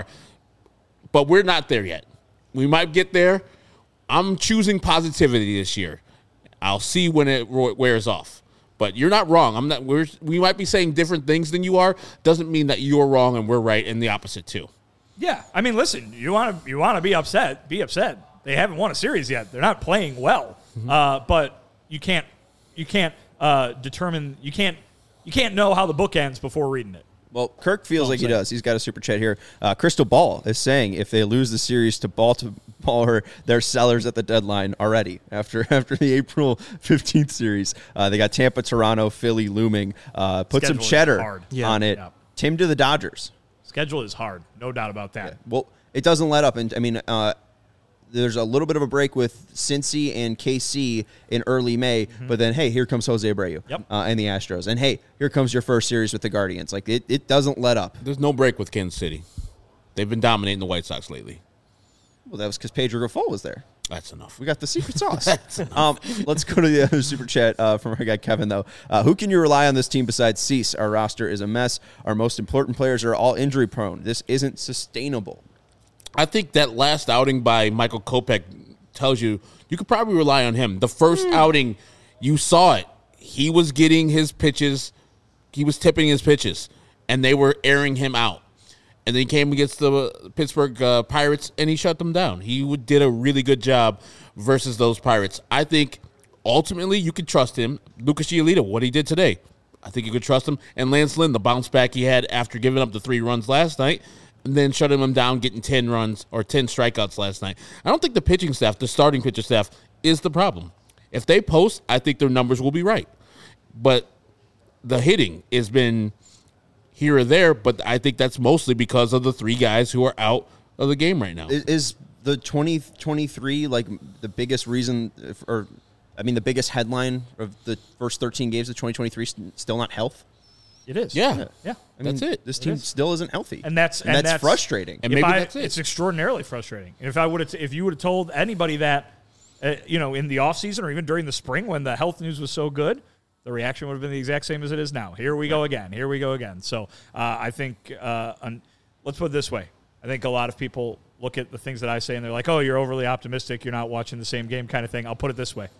But we're not there yet. We might get there. I'm choosing positivity this year. I'll see when it wears off. But you're not wrong. I'm not. We're, we might be saying different things than you are. Doesn't mean that you're wrong and we're right, and the opposite too. Yeah, I mean, listen, you want to you want to be upset, be upset. They haven't won a series yet. They're not playing well. Mm-hmm. Uh, but you can't you can't uh, determine you can't you can't know how the book ends before reading it. Well, Kirk feels Well, like he saying. does. He's got a super chat here. Uh, Crystal Ball is saying if they lose the series to Baltimore, they're sellers at the deadline already after after the April fifteenth series. Uh, they got Tampa, Toronto, Philly looming. Uh, put Schedule some is cheddar hard. Yeah. on it. Yeah. Tim to the Dodgers. Schedule is hard, no doubt about that. Well, it doesn't let up. And I mean, uh, there's a little bit of a break with Cincy and K C in early May, mm-hmm. but then, hey, here comes Jose Abreu Yep. uh, and the Astros. And, hey, here comes your first series with the Guardians. Like, it, it doesn't let up. There's no break with Kansas City. They've been dominating the White Sox lately. Well, that was because Pedro Grifol was there. That's enough. We got the secret sauce. um, let's go to the other super chat uh, from our guy Kevin, though. Uh, who can you rely on this team besides Cease? Our roster is a mess. Our most important players are all injury-prone. This isn't sustainable. I think that last outing by Michael Kopech tells you you could probably rely on him. The first mm. outing, you saw it. He was getting his pitches. He was tipping his pitches, and they were airing him out. And then he came against the Pittsburgh uh, Pirates, and he shut them down. He would, did a really good job versus those Pirates. I think ultimately you could trust him. Lucas Giolito, what he did today, I think you could trust him. And Lance Lynn, the bounce back he had after giving up the three runs last night, and then shutting him down, getting ten runs or ten strikeouts last night. I don't think the pitching staff, the starting pitcher staff, is the problem. If they post, I think their numbers will be right. But the hitting has been here or there, but I think that's mostly because of the three guys who are out of the game right now. Is, is the twenty twenty-three like the biggest reason, if, or I mean the biggest headline of the first thirteen games of twenty twenty-three still not health? It is. Yeah. Yeah. I mean, That's it. This It team is. still isn't healthy, And that's and, and that's, frustrating. And If maybe I- that's it. It's extraordinarily frustrating. And if I would have, if you would have told anybody that, uh, you know, in the off season or even during the spring when the health news was so good, the reaction would have been the exact same as it is now. Here we go again. Here we go again. So uh, I think, uh, un- let's put it this way. I think a lot of people look at the things that I say and they're like, "Oh, you're overly optimistic. You're not watching the same game," kind of thing. I'll put it this way.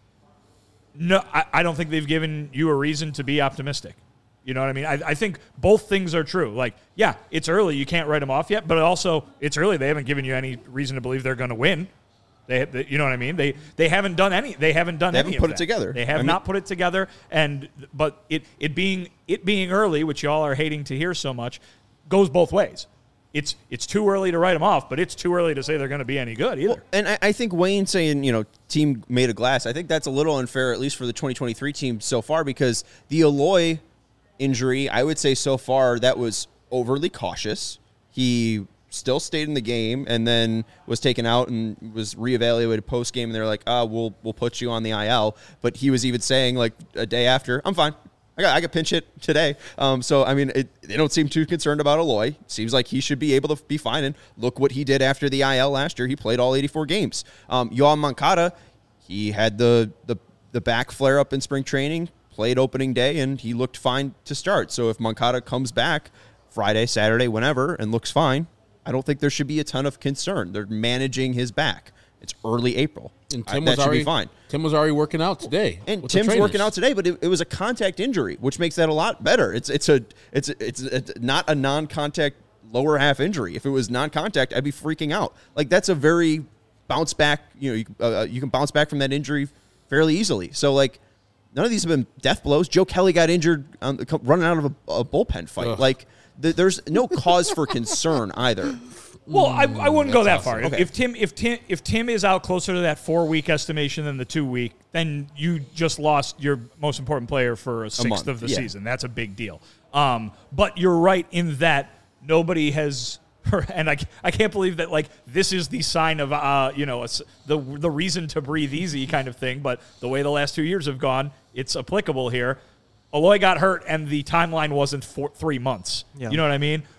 No, I, I don't think they've given you a reason to be optimistic. You know what I mean? I, I think both things are true. Like, yeah, it's early. You can't write them off yet. But also, it's early. They haven't given you any reason to believe they're going to win. They, they, you know what I mean? They they haven't done any. They haven't done They any haven't of put it that. together. They have I mean- not put it together. And but it it being it being early, which y'all are hating to hear so much, goes both ways. It's it's too early to write them off, but it's too early to say they're going to be any good either. Well, and I, I think Wayne saying, you know, team made of glass, I think that's a little unfair, at least for the twenty twenty-three team so far, because the Eloy injury, I would say so far that was overly cautious. He still stayed in the game and then was taken out and was reevaluated post game, and they're like, "Ah, oh, we'll we'll put you on the I L." But he was even saying like a day after, "I'm fine. I got I got pinch hit today." Um, so I mean, it, they don't seem too concerned about Eloy. Seems like he should be able to be fine. And look what he did after the I L last year. He played all eighty-four games. Um, Yohan Moncada, he had the the the back flare up in spring training, played opening day, and he looked fine to start. So if Moncada comes back Friday, Saturday, whenever, and looks fine, I don't think there should be a ton of concern. They're managing his back. It's early April. And I- Tim that was should already be fine. Tim was already working out today. And with the Tim's working trainers. out today, but it, it was a contact injury, which makes that a lot better. It's it's a it's it's, it's not a non-contact lower half injury. If it was non-contact, I'd be freaking out. Like that's a very bounce back. You know, you, uh, you can bounce back from that injury fairly easily. So like, none of these have been death blows. Joe Kelly got injured on, running out of a, a bullpen fight. Ugh. Like th- there's no cause for concern either. Well, I, I wouldn't go that That's far. awesome. If, Okay. if Tim if Tim if Tim is out closer to that four week estimation than the two week, then you just lost your most important player for a sixth month, of the yeah. season. That's a big deal. Um, but you're right in that nobody has, and I, I can't believe that like this is the sign of uh you know a s the the reason to breathe easy kind of thing. But the way the last two years have gone, it's applicable here. Eloy got hurt, and the timeline wasn't for three months. Yeah. You know what I mean?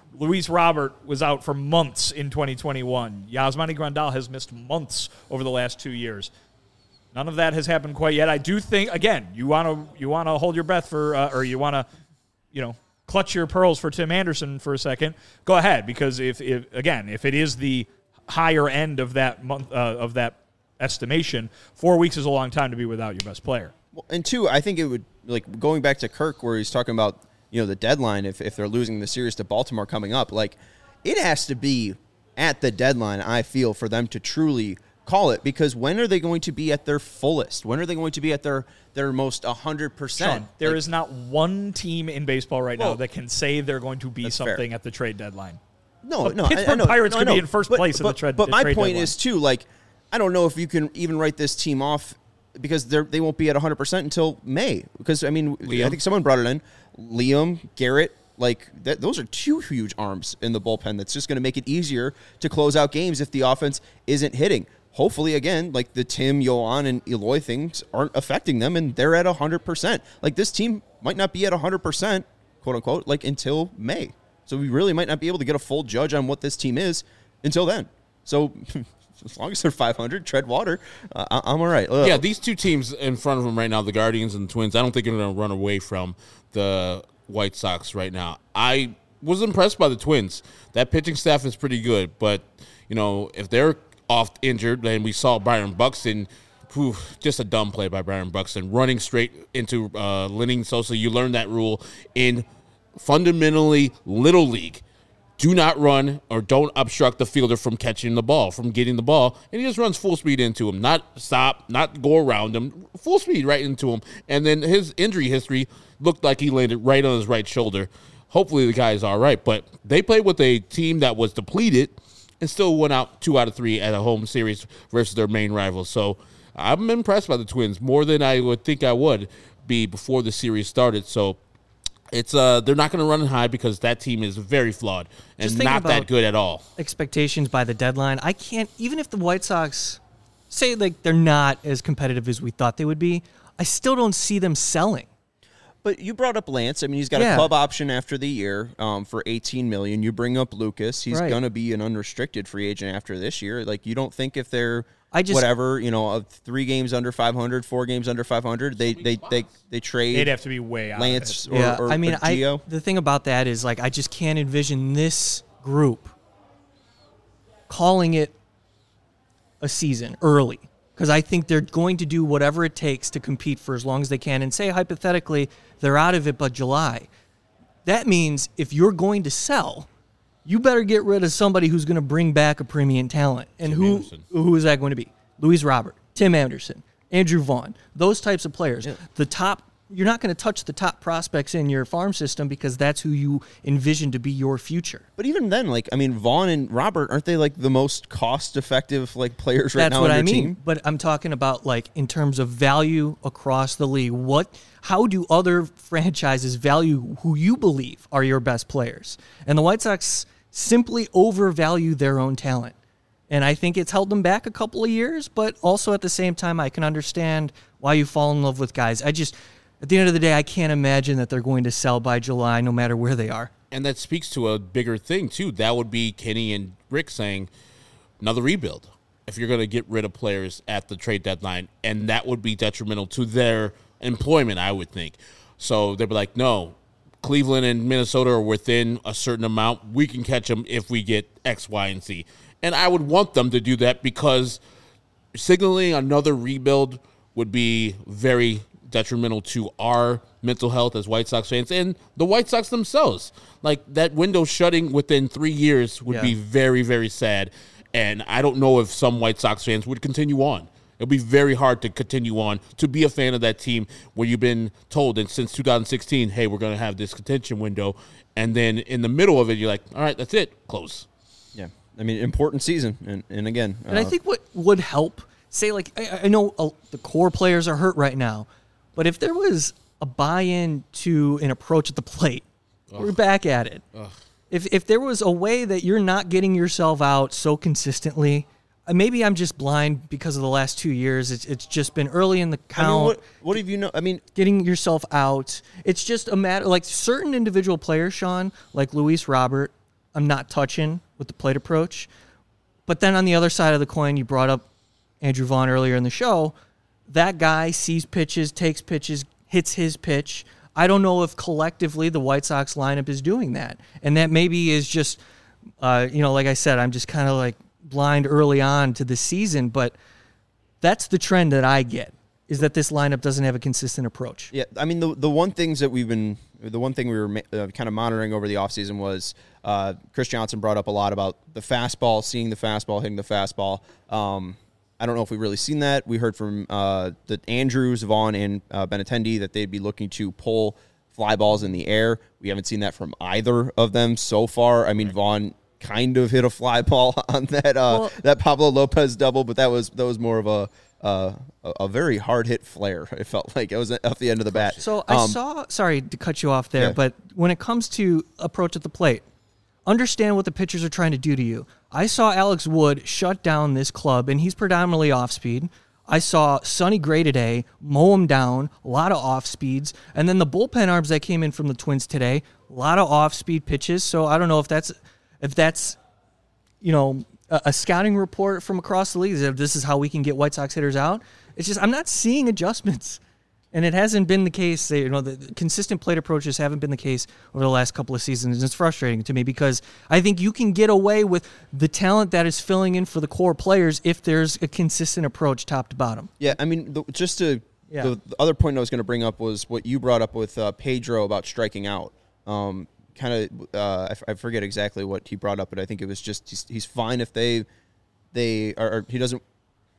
Luis Robert was out for months in twenty twenty-one. Yasmani Grandal has missed months over the last two years. None of that has happened quite yet. I do think, again, you want to you want to hold your breath for, uh, or you want to, you know, clutch your pearls for Tim Anderson for a second. Go ahead, because if, if again, if it is the higher end of that month uh, of that estimation, four weeks is a long time to be without your best player. Well, and two, I think it would, like, going back to Kirk where he's talking about, you know, the deadline, if, if they're losing the series to Baltimore coming up, like, it has to be at the deadline, I feel, for them to truly call it, because when are they going to be at their fullest? When are they going to be at their, their most one hundred percent? Sean, there like, is not one team in baseball right well, now that can say they're going to be something fair. at the trade deadline. No, The no, Pittsburgh I, I know, Pirates no, could I know. be in first but, place in but, the trade But the my trade point deadline. is, too, like, I don't know if you can even write this team off because they they won't be at one hundred percent until May. Because, I mean, Liam? I think someone brought it in. Liam, Garrett, like, that, those are two huge arms in the bullpen that's just going to make it easier to close out games if the offense isn't hitting. Hopefully, again, like the Tim, Yoan, and Eloy things aren't affecting them, and they're at one hundred percent. Like, this team might not be at one hundred percent, quote-unquote, like, until May. So we really might not be able to get a full judge on what this team is until then. So as long as they're five hundred, tread water, uh, I- I'm all right. Ugh. Yeah, these two teams in front of them right now, the Guardians and the Twins, I don't think they're going to run away from the White Sox right now. I was impressed by the Twins. That pitching staff is pretty good, but, you know, if they're off injured, and we saw Byron Buxton, whew, just a dumb play by Byron Buxton, running straight into uh, Lenny Sosa. You learn that rule in fundamentally Little League. Do not run or don't obstruct the fielder from catching the ball, from getting the ball. And he just runs full speed into him. Not stop, not go around him. Full speed right into him. And then his injury history looked like he landed right on his right shoulder. Hopefully the guy is all right. But they played with a team that was depleted and still went out two out of three at a home series versus their main rivals. So I'm impressed by the Twins more than I would think I would be before the series started. So It's uh, they're not going to run high because that team is very flawed and Just thinking not that about good at all. Expectations by the deadline. I can't, even if the White Sox say like they're not as competitive as we thought they would be, I still don't see them selling. But you brought up Lance. I mean, he's got Yeah. a club option after the year um, for eighteen million dollars. You bring up Lucas. He's Right. going to be an unrestricted free agent after this year. Like, you don't think if they're I just- whatever, you know, of three games under five hundred, four games under five hundred, they they they, they trade They'd have to be way out. Lance Of or, yeah, or, I mean, or I Gio? the thing about that is like I just can't envision this group calling it a season early because I think they're going to do whatever it takes to compete for as long as they can. And say hypothetically they're out of it by July. That means if you're going to sell, you better get rid of somebody who's going to bring back a premium talent. And Tim who Anderson. who is that going to be? Luis Robert, Tim Anderson, Andrew Vaughn, those types of players. The top, you're not going to touch the top prospects in your farm system because that's who you envision to be your future. But even then, like, I mean, Vaughn and Robert, aren't they like the most cost-effective like players right That's now what on I your mean. team? But I'm talking about like in terms of value across the league. What? How do other franchises value who you believe are your best players? And the White Sox simply overvalue their own talent. And I think it's held them back a couple of years, but also at the same time, I can understand why you fall in love with guys. I just, at the end of the day, I can't imagine that they're going to sell by July no matter where they are. And that speaks to a bigger thing, too. That would be Kenny and Rick saying another rebuild if you're going to get rid of players at the trade deadline. And that would be detrimental to their employment, I would think. So they'd be like, no, Cleveland and Minnesota are within a certain amount. We can catch them if we get X, Y, and Z. And I would want them to do that because signaling another rebuild would be very detrimental to our mental health as White Sox fans and the White Sox themselves. Like, that window shutting within three years would Yeah. be very, very sad. And I don't know if some White Sox fans would continue on. It'll be very hard to continue on, to be a fan of that team where you've been told and since two thousand sixteen, hey, we're going to have this contention window. And then in the middle of it, you're like, all right, that's it, close. Yeah, I mean, important season, and and again, And I uh, think what would help, say, like, I, I know uh, the core players are hurt right now, but if there was a buy-in to an approach at the plate, we're back at it. If if there was a way that you're not getting yourself out so consistently, uh, maybe I'm just blind because of the last two years. It's it's just been early in the I count. mean, what what have you know? I mean, Getting yourself out. It's just a matter, like certain individual players, Sean, like Luis Robert, I'm not touching with the plate approach. But then on the other side of the coin, you brought up Andrew Vaughn earlier in the show. That guy sees pitches, takes pitches, hits his pitch. I don't know if collectively the White Sox lineup is doing that. And that maybe is just, uh, you know, like I said, I'm just kind of like blind early on to the season. But that's the trend that I get, is that this lineup doesn't have a consistent approach. Yeah, I mean, the the one things that we've been, the one thing we were uh, kind of monitoring over the offseason was uh, Chris Johnson brought up a lot about the fastball, seeing the fastball, hitting the fastball. Um, I don't know if we've really seen that. We heard from uh, the Andrews, Vaughn, and uh, Benintendi that they'd be looking to pull fly balls in the air. We haven't seen that from either of them so far. I mean, Vaughn kind of hit a fly ball on that uh, well, that Pablo Lopez double, but that was that was more of a uh, a, a very hard hit flare. It felt like it was off the end of the bat. So I um, saw. Sorry to cut you off there, yeah. but when it comes to approach at the plate, understand what the pitchers are trying to do to you. I saw Alex Wood shut down this club, and he's predominantly off speed. I saw Sonny Gray today mow him down, a lot of off speeds, and then the bullpen arms that came in from the Twins today, a lot of off speed pitches. So I don't know if that's if that's you know a, a scouting report from across the league. If this is how we can get White Sox hitters out, it's just I'm not seeing adjustments. And it hasn't been the case. You know, the consistent plate approaches haven't been the case over the last couple of seasons. And it's frustrating to me because I think you can get away with the talent that is filling in for the core players if there's a consistent approach top to bottom. Yeah, I mean, the, just to yeah. the, the other point I was going to bring up was what you brought up with uh, Pedro about striking out. Um, kind of, uh, I, f- I forget exactly what he brought up, but I think it was just he's, he's fine if they they are. Or he doesn't.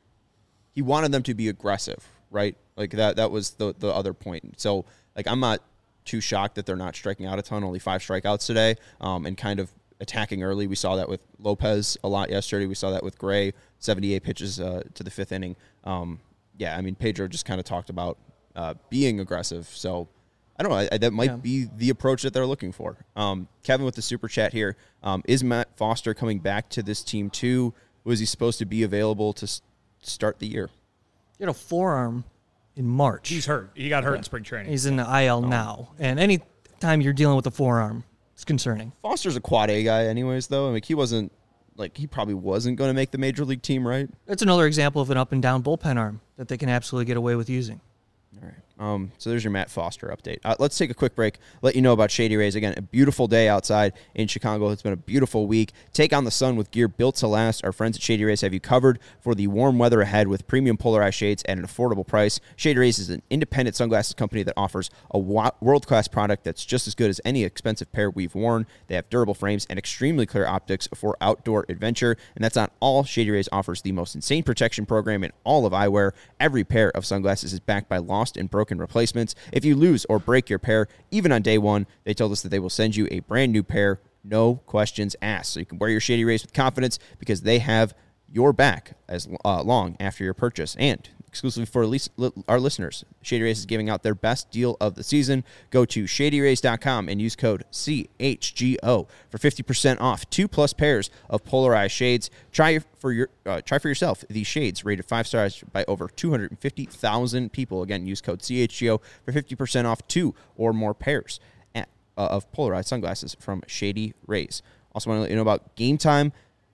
He wanted them to be aggressive, right? Like that that was the the other point. So like I'm not too shocked that they're not striking out a ton, only five strikeouts today, um, and kind of attacking early. We saw that with Lopez a lot yesterday. We saw that with Gray, seventy-eight pitches uh, to the fifth inning. Um, yeah, I mean, Pedro just kind of talked about uh, being aggressive. So I don't know. I, I, that might yeah. be the approach that they're looking for. Um, Kevin with the super chat here. Um, is Matt Foster coming back to this team too? Was he supposed to be available to s- start the year? He had a forearm in March. He's hurt. He got hurt yeah. in spring training. He's in the I L oh. now. And any time you're dealing with a forearm, it's concerning. Foster's a quad A guy anyways, though. I mean, he wasn't, like, he probably wasn't going to make the major league team, right? That's another example of an up and down bullpen arm that they can absolutely get away with using. All right. Um, so there's your Matt Foster update. Uh, let's take a quick break. Let you know about Shady Rays. Again, a beautiful day outside in Chicago. It's been a beautiful week. Take on the sun with gear built to last. Our friends at Shady Rays have you covered for the warm weather ahead with premium polarized shades at an affordable price. Shady Rays is an independent sunglasses company that offers a wa- world-class product that's just as good as any expensive pair we've worn. They have durable frames and extremely clear optics for outdoor adventure. And that's not all. Shady Rays offers the most insane protection program in all of eyewear. Every pair of sunglasses is backed by lost and broken replacements. If you lose or break your pair, even on day one, they told us that they will send you a brand new pair, no questions asked. So you can wear your Shady Rays with confidence because they have your back as uh, long after your purchase. And exclusively for lis- li- our listeners, Shady Rays is giving out their best deal of the season. Go to shady rays dot com and use code C H G O for fifty percent off two plus pairs of polarized shades. Try for your uh, try for yourself these shades rated five stars by over two hundred fifty thousand people. Again, use code C H G O for fifty percent off two or more pairs at, uh, of polarized sunglasses from Shady Rays. Also want to let you know about Game Time.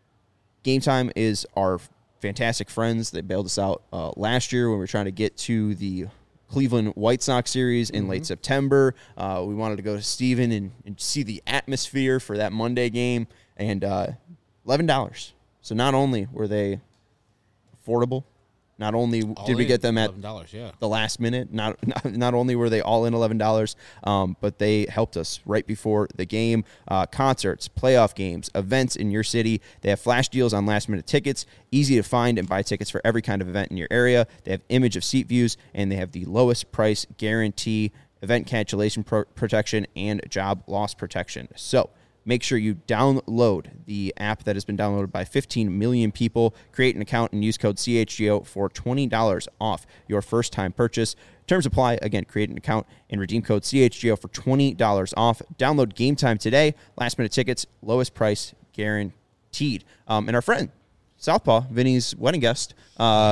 Game Time is our fantastic friends. They bailed us out uh, last year when we were trying to get to the Cleveland White Sox series in mm-hmm. late September. Uh, we wanted to go to Steven and, and see the atmosphere for that Monday game, and uh, eleven dollars. So not only were they affordable, not only all did we in, get them at yeah. the last minute, not, not not only were they all in eleven dollars, um, but they helped us right before the game. Uh, concerts, playoff games, events in your city. They have flash deals on last-minute tickets, easy to find and buy tickets for every kind of event in your area. They have image of seat views, and they have the lowest price guarantee, event cancellation pro- protection, and job loss protection. So make sure you download the app that has been downloaded by fifteen million people. Create an account and use code C H G O for twenty dollars off your first-time purchase. Terms apply. Again, create an account and redeem code C H G O for twenty dollars off. Download Game Time today. Last-minute tickets, lowest price guaranteed. Um, and our friend, Southpaw, Vinny's wedding guest, uh,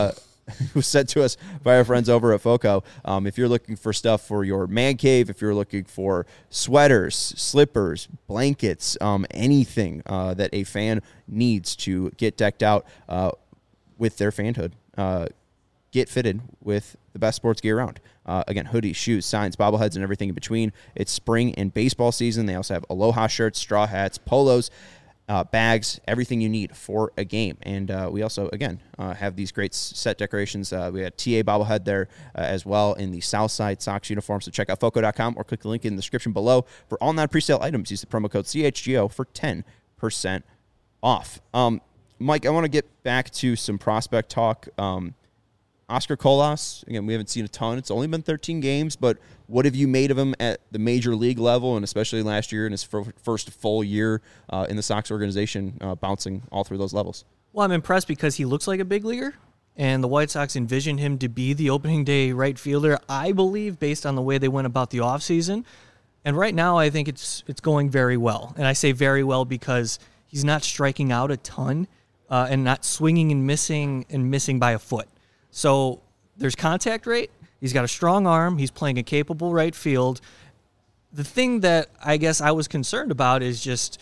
was sent to us by our friends over at FOCO. Um, if you're looking for stuff for your man cave, if you're looking for sweaters, slippers, blankets, um, anything uh, that a fan needs to get decked out uh, with their fanhood, uh, get fitted with the best sports gear around. Uh, again, hoodies, shoes, signs, bobbleheads, and everything in between. It's spring and baseball season. They also have Aloha shirts, straw hats, polos, Uh, bags, everything you need for a game. And uh, we also, again, uh, have these great set decorations. Uh, we had T A bobblehead there uh, as well in the Southside Sox uniform. So check out foco dot com or click the link in the description below for all non-presale items. Use the promo code C H G O for ten percent off. Um, Mike, I want to get back to some prospect talk. Um, Oscar Colas, again, we haven't seen a ton. It's only been thirteen games, but what have you made of him at the major league level, and especially last year in his fir- first full year uh, in the Sox organization, uh, bouncing all through those levels? Well, I'm impressed because he looks like a big leaguer, and the White Sox envisioned him to be the opening day right fielder, I believe, based on the way they went about the offseason. And right now, I think it's it's going very well. And I say very well because he's not striking out a ton uh, and not swinging and missing and missing by a foot. So there's contact rate. He's got a strong arm. He's playing a capable right field. The thing that I guess I was concerned about is just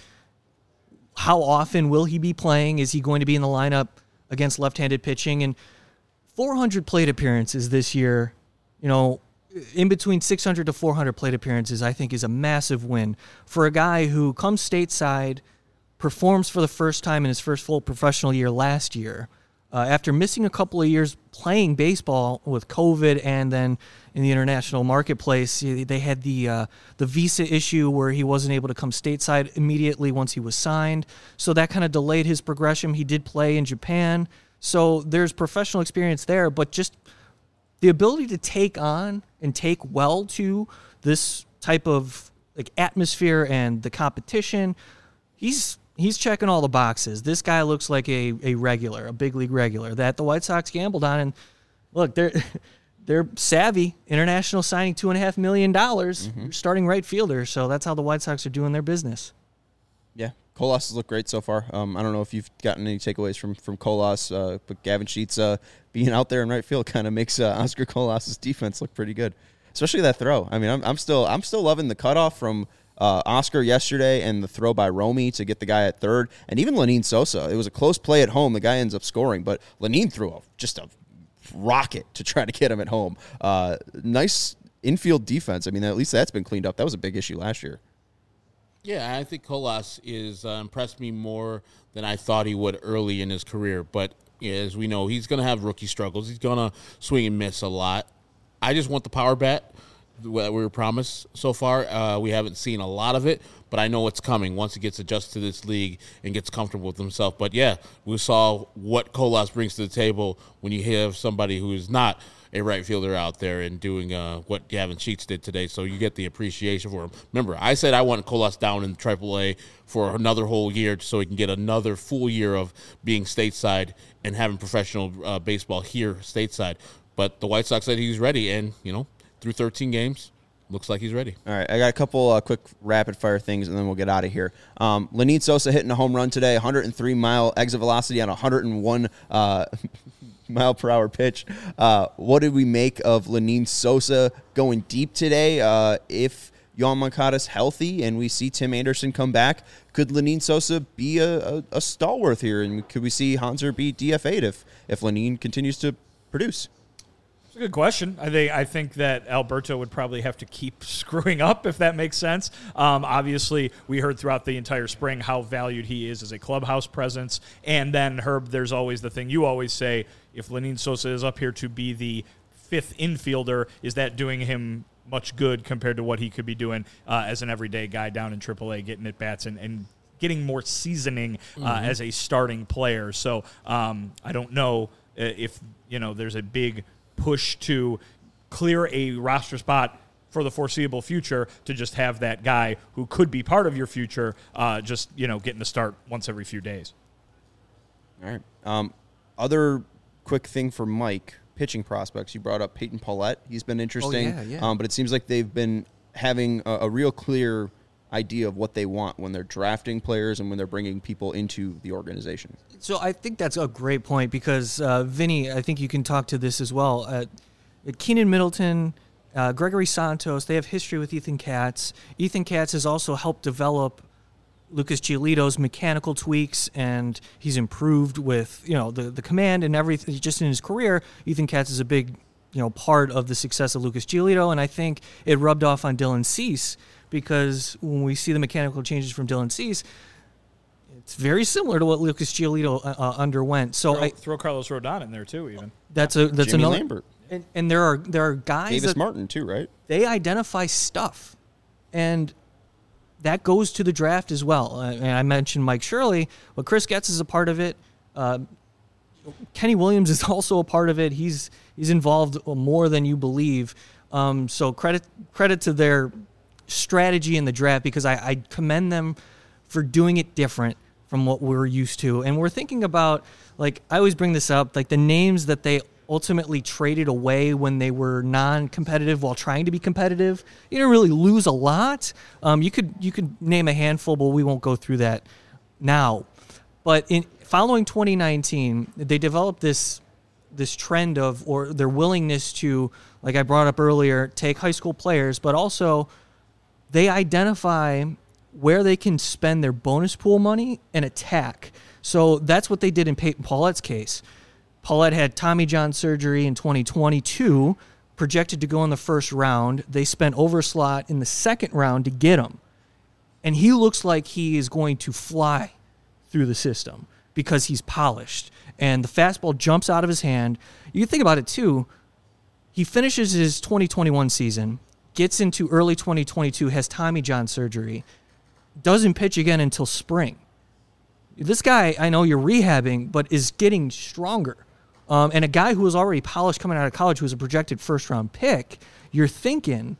how often will he be playing? Is he going to be in the lineup against left-handed pitching? And four hundred plate appearances this year, you know, in between six hundred to four hundred plate appearances, I think is a massive win for a guy who comes stateside, performs for the first time in his first full professional year last year, Uh, after missing a couple of years playing baseball with COVID and then in the international marketplace. They had the uh, the visa issue where he wasn't able to come stateside immediately once he was signed. So that kind of delayed his progression. He did play in Japan. So there's professional experience there, but just the ability to take on and take well to this type of like atmosphere and the competition, he's He's checking all the boxes. This guy looks like a, a regular, a big league regular that the White Sox gambled on. And look, they're they're savvy. International signing two and a half million dollars, mm-hmm. starting right fielder. So that's how the White Sox are doing their business. Yeah, Colas has looked great so far. Um, I don't know if you've gotten any takeaways from from Colas, uh, but Gavin Sheets uh, being out there in right field kind of makes uh, Oscar Colas's defense look pretty good, especially that throw. I mean, I'm, I'm still I'm still loving the cutoff from Uh, Oscar yesterday and the throw by Romy to get the guy at third, and even Lenyn Sosa. It was a close play at home. The guy ends up scoring, but Lenyn threw a, just a rocket to try to get him at home. Uh, nice infield defense. I mean, at least that's been cleaned up. That was a big issue last year. Yeah, I think Colas is uh, impressed me more than I thought he would early in his career. But yeah, as we know, he's going to have rookie struggles. He's going to swing and miss a lot. I just want the power bat that we were promised so far. Uh, we haven't seen a lot of it, but I know it's coming once he gets adjusted to this league and gets comfortable with himself. But, yeah, we saw what Colas brings to the table when you have somebody who is not a right fielder out there and doing uh, what Gavin Sheets did today, so you get the appreciation for him. Remember, I said I want Colas down in triple A for another whole year so he can get another full year of being stateside and having professional uh, baseball here stateside. But the White Sox said he's ready, and, you know, through thirteen games, looks like he's ready. All right, I got a couple uh, quick rapid-fire things, and then we'll get out of here. Um, Lenyn Sosa hitting a home run today, one hundred three mile exit velocity on a one hundred one uh, mile per hour pitch. Uh, what did we make of Lenyn Sosa going deep today? Uh, if Yoan Moncada's healthy and we see Tim Anderson come back, could Lenyn Sosa be a, a, a stalwart here? And could we see Hanser be D F A'd if, if Lenyn continues to produce? It's a good question. I think I think that Alberto would probably have to keep screwing up, if that makes sense. Um, obviously, we heard throughout the entire spring how valued he is as a clubhouse presence. And then, Herb, there's always the thing you always say, if Lenyn Sosa is up here to be the fifth infielder, is that doing him much good compared to what he could be doing uh, as an everyday guy down in triple A, getting at bats and, and getting more seasoning uh, mm-hmm. as a starting player. So um, I don't know if, you know, there's a big push to clear a roster spot for the foreseeable future to just have that guy who could be part of your future uh, just, you know, getting to start once every few days. All right. Um, other quick thing for Mike, pitching prospects. You brought up Peyton Paulette. He's been interesting, oh, yeah, yeah. Um, but it seems like they've been having a, a real clear idea of what they want when they're drafting players and when they're bringing people into the organization. So I think that's a great point because, uh, Vinny, I think you can talk to this as well. Uh, Keenan Middleton, uh, Gregory Santos, they have history with Ethan Katz. Ethan Katz has also helped develop Lucas Giolito's mechanical tweaks, and he's improved with, you know, the, the command and everything. Just in his career, Ethan Katz is a big, you know, part of the success of Lucas Giolito, and I think it rubbed off on Dylan Cease because when we see the mechanical changes from Dylan Cease, it's very similar to what Lucas Giolito uh, underwent. So throw, I throw Carlos Rodon in there too, even. That's a that's Jimmy another. Lambert. And, and there are there are guys Davis that Martin too, right? they identify stuff, and that goes to the draft as well. Uh, and I mentioned Mike Shirley, but Chris Getz is a part of it. Uh, Kenny Williams is also a part of it. He's he's involved more than you believe. Um, so credit credit to their strategy in the draft because I, I commend them for doing it different from what we're used to. And we're thinking about, like, I always bring this up, like the names that they ultimately traded away when they were non-competitive while trying to be competitive. You didn't really lose a lot. Um, you could you could name a handful, but we won't go through that now. But in following twenty nineteen, they developed this this trend of, or their willingness to, like I brought up earlier, take high school players, but also they identify where they can spend their bonus pool money and attack. So that's what they did in Peyton Paulette's case. Paulette had Tommy John surgery in twenty twenty-two, projected to go in the first round. They spent Overslot in the second round to get him. And he looks like he is going to fly through the system because he's polished. And the fastball jumps out of his hand. You think about it, too. He finishes his twenty twenty-one season, gets into early twenty twenty-two, has Tommy John surgery, doesn't pitch again until spring. This guy, I know you're rehabbing, but is getting stronger. Um, and a guy who was already polished coming out of college, who was a projected first-round pick, you're thinking,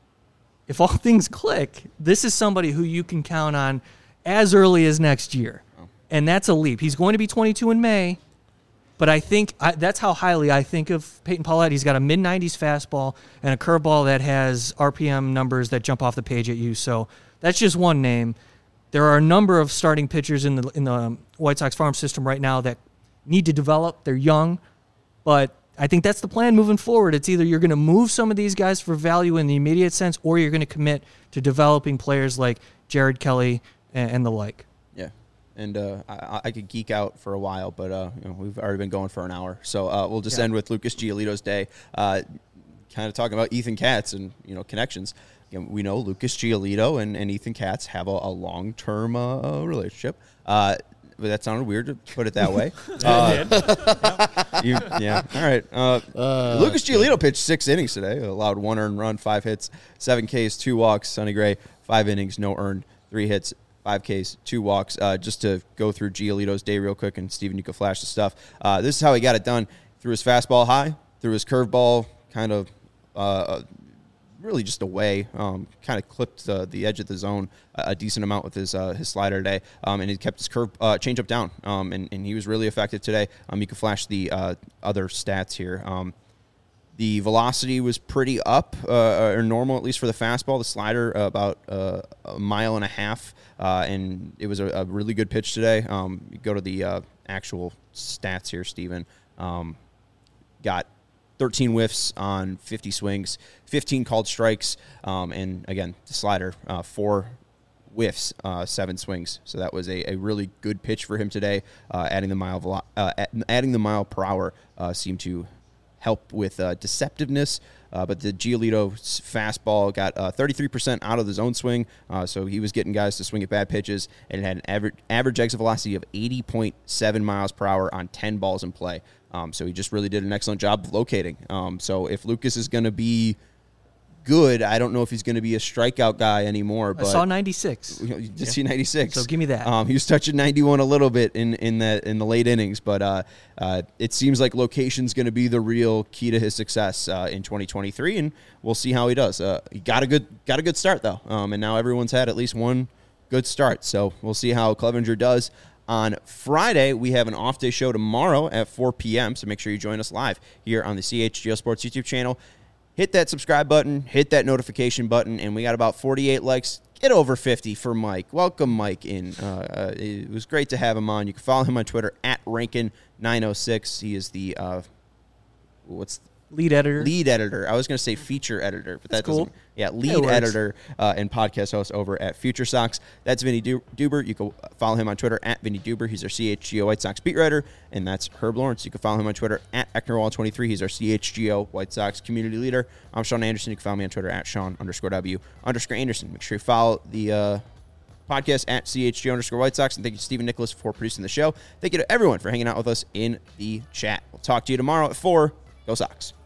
if all things click, this is somebody who you can count on as early as next year. Oh. And that's a leap. He's going to be twenty-two in May, but I think I, that's how highly I think of Peyton Paulette. He's got a mid nineties fastball and a curveball that has R P M numbers that jump off the page at you. So that's just one name. There are a number of starting pitchers in the in the White Sox farm system right now that need to develop. They're young, but I think that's the plan moving forward. It's either you're going to move some of these guys for value in the immediate sense, or you're going to commit to developing players like Jared Kelly and, and the like. Yeah, and uh, I, I could geek out for a while, but uh, you know, we've already been going for an hour, so uh, we'll just yeah. end with Lucas Giolito's day. Uh, kind of talking about Ethan Katz and you know connections. We know Lucas Giolito and, and Ethan Katz have a, a long-term uh, relationship. Uh, but that sounded weird to put it that way. uh, yep. you, yeah, all right. Uh, uh, Lucas Giolito pitched six innings today, allowed one earned run, five hits, seven Ks, two walks. Sonny Gray, five innings, no earned, three hits, five Ks, two walks. Uh, just to go through Giolito's day real quick, and Steven, you can flash the stuff. Uh, this is how he got it done. Threw his fastball high, threw his curveball kind of uh, – really just away, um, kind of clipped uh, the edge of the zone a, a decent amount with his uh, his slider today, um, and he kept his curve uh, changeup down, um, and, and he was really effective today. Um, you can flash the uh, other stats here. Um, the velocity was pretty up, uh, or normal at least for the fastball. The slider uh, about uh, a mile and a half, uh, and it was a, a really good pitch today. Um, you go to the uh, actual stats here, Steven. Um, got thirteen whiffs on fifty swings, fifteen called strikes, um, and again, the slider, uh, four whiffs, uh, seven swings. So that was a, a really good pitch for him today. Uh, adding the mile velo- uh, adding the mile per hour uh, seemed to help with uh, deceptiveness. Uh, but the Giolito fastball got uh, thirty-three percent out of the zone swing, uh, so he was getting guys to swing at bad pitches, and it had an average, average exit velocity of eighty point seven miles per hour on ten balls in play. Um, so he just really did an excellent job of locating. Um, so if Lucas is going to be good, I don't know if he's going to be a strikeout guy anymore. But I saw ninety-six. You, know, you did yeah. see ninety-six. So give me that. Um, he was touching ninety-one a little bit in in the in the late innings, but uh, uh, it seems like location's going to be the real key to his success uh, in twenty twenty-three, and we'll see how he does. Uh, he got a good got a good start though, um, and now everyone's had at least one good start. So we'll see how Clevenger does. On Friday, we have an off-day show tomorrow at four p.m., so make sure you join us live here on the C H G O Sports YouTube channel. Hit that subscribe button, hit that notification button, and we got about forty-eight likes Get over fifty for Mike. Welcome, Mike, in. Uh, uh, it was great to have him on. You can follow him on Twitter at Rankin nine oh six. He is the, uh, what's Lead editor. Lead editor. I was going to say feature editor, but That's that doesn't. cool. Yeah, It lead works. editor uh, and podcast host over at Future Sox. That's Vinny Du- Duber. You can follow him on Twitter at Vinny Duber. He's our C H G O White Sox beat writer, and that's Herb Lawrence. You can follow him on Twitter at Ecknerwall twenty-three. He's our C H G O White Sox community leader. I'm Sean Anderson. You can follow me on Twitter at Sean underscore W underscore Anderson. Make sure you follow the uh, podcast at C H G O underscore White Sox. And thank you to Stephen Nicholas for producing the show. Thank you to everyone for hanging out with us in the chat. We'll talk to you tomorrow at four. Go Sox.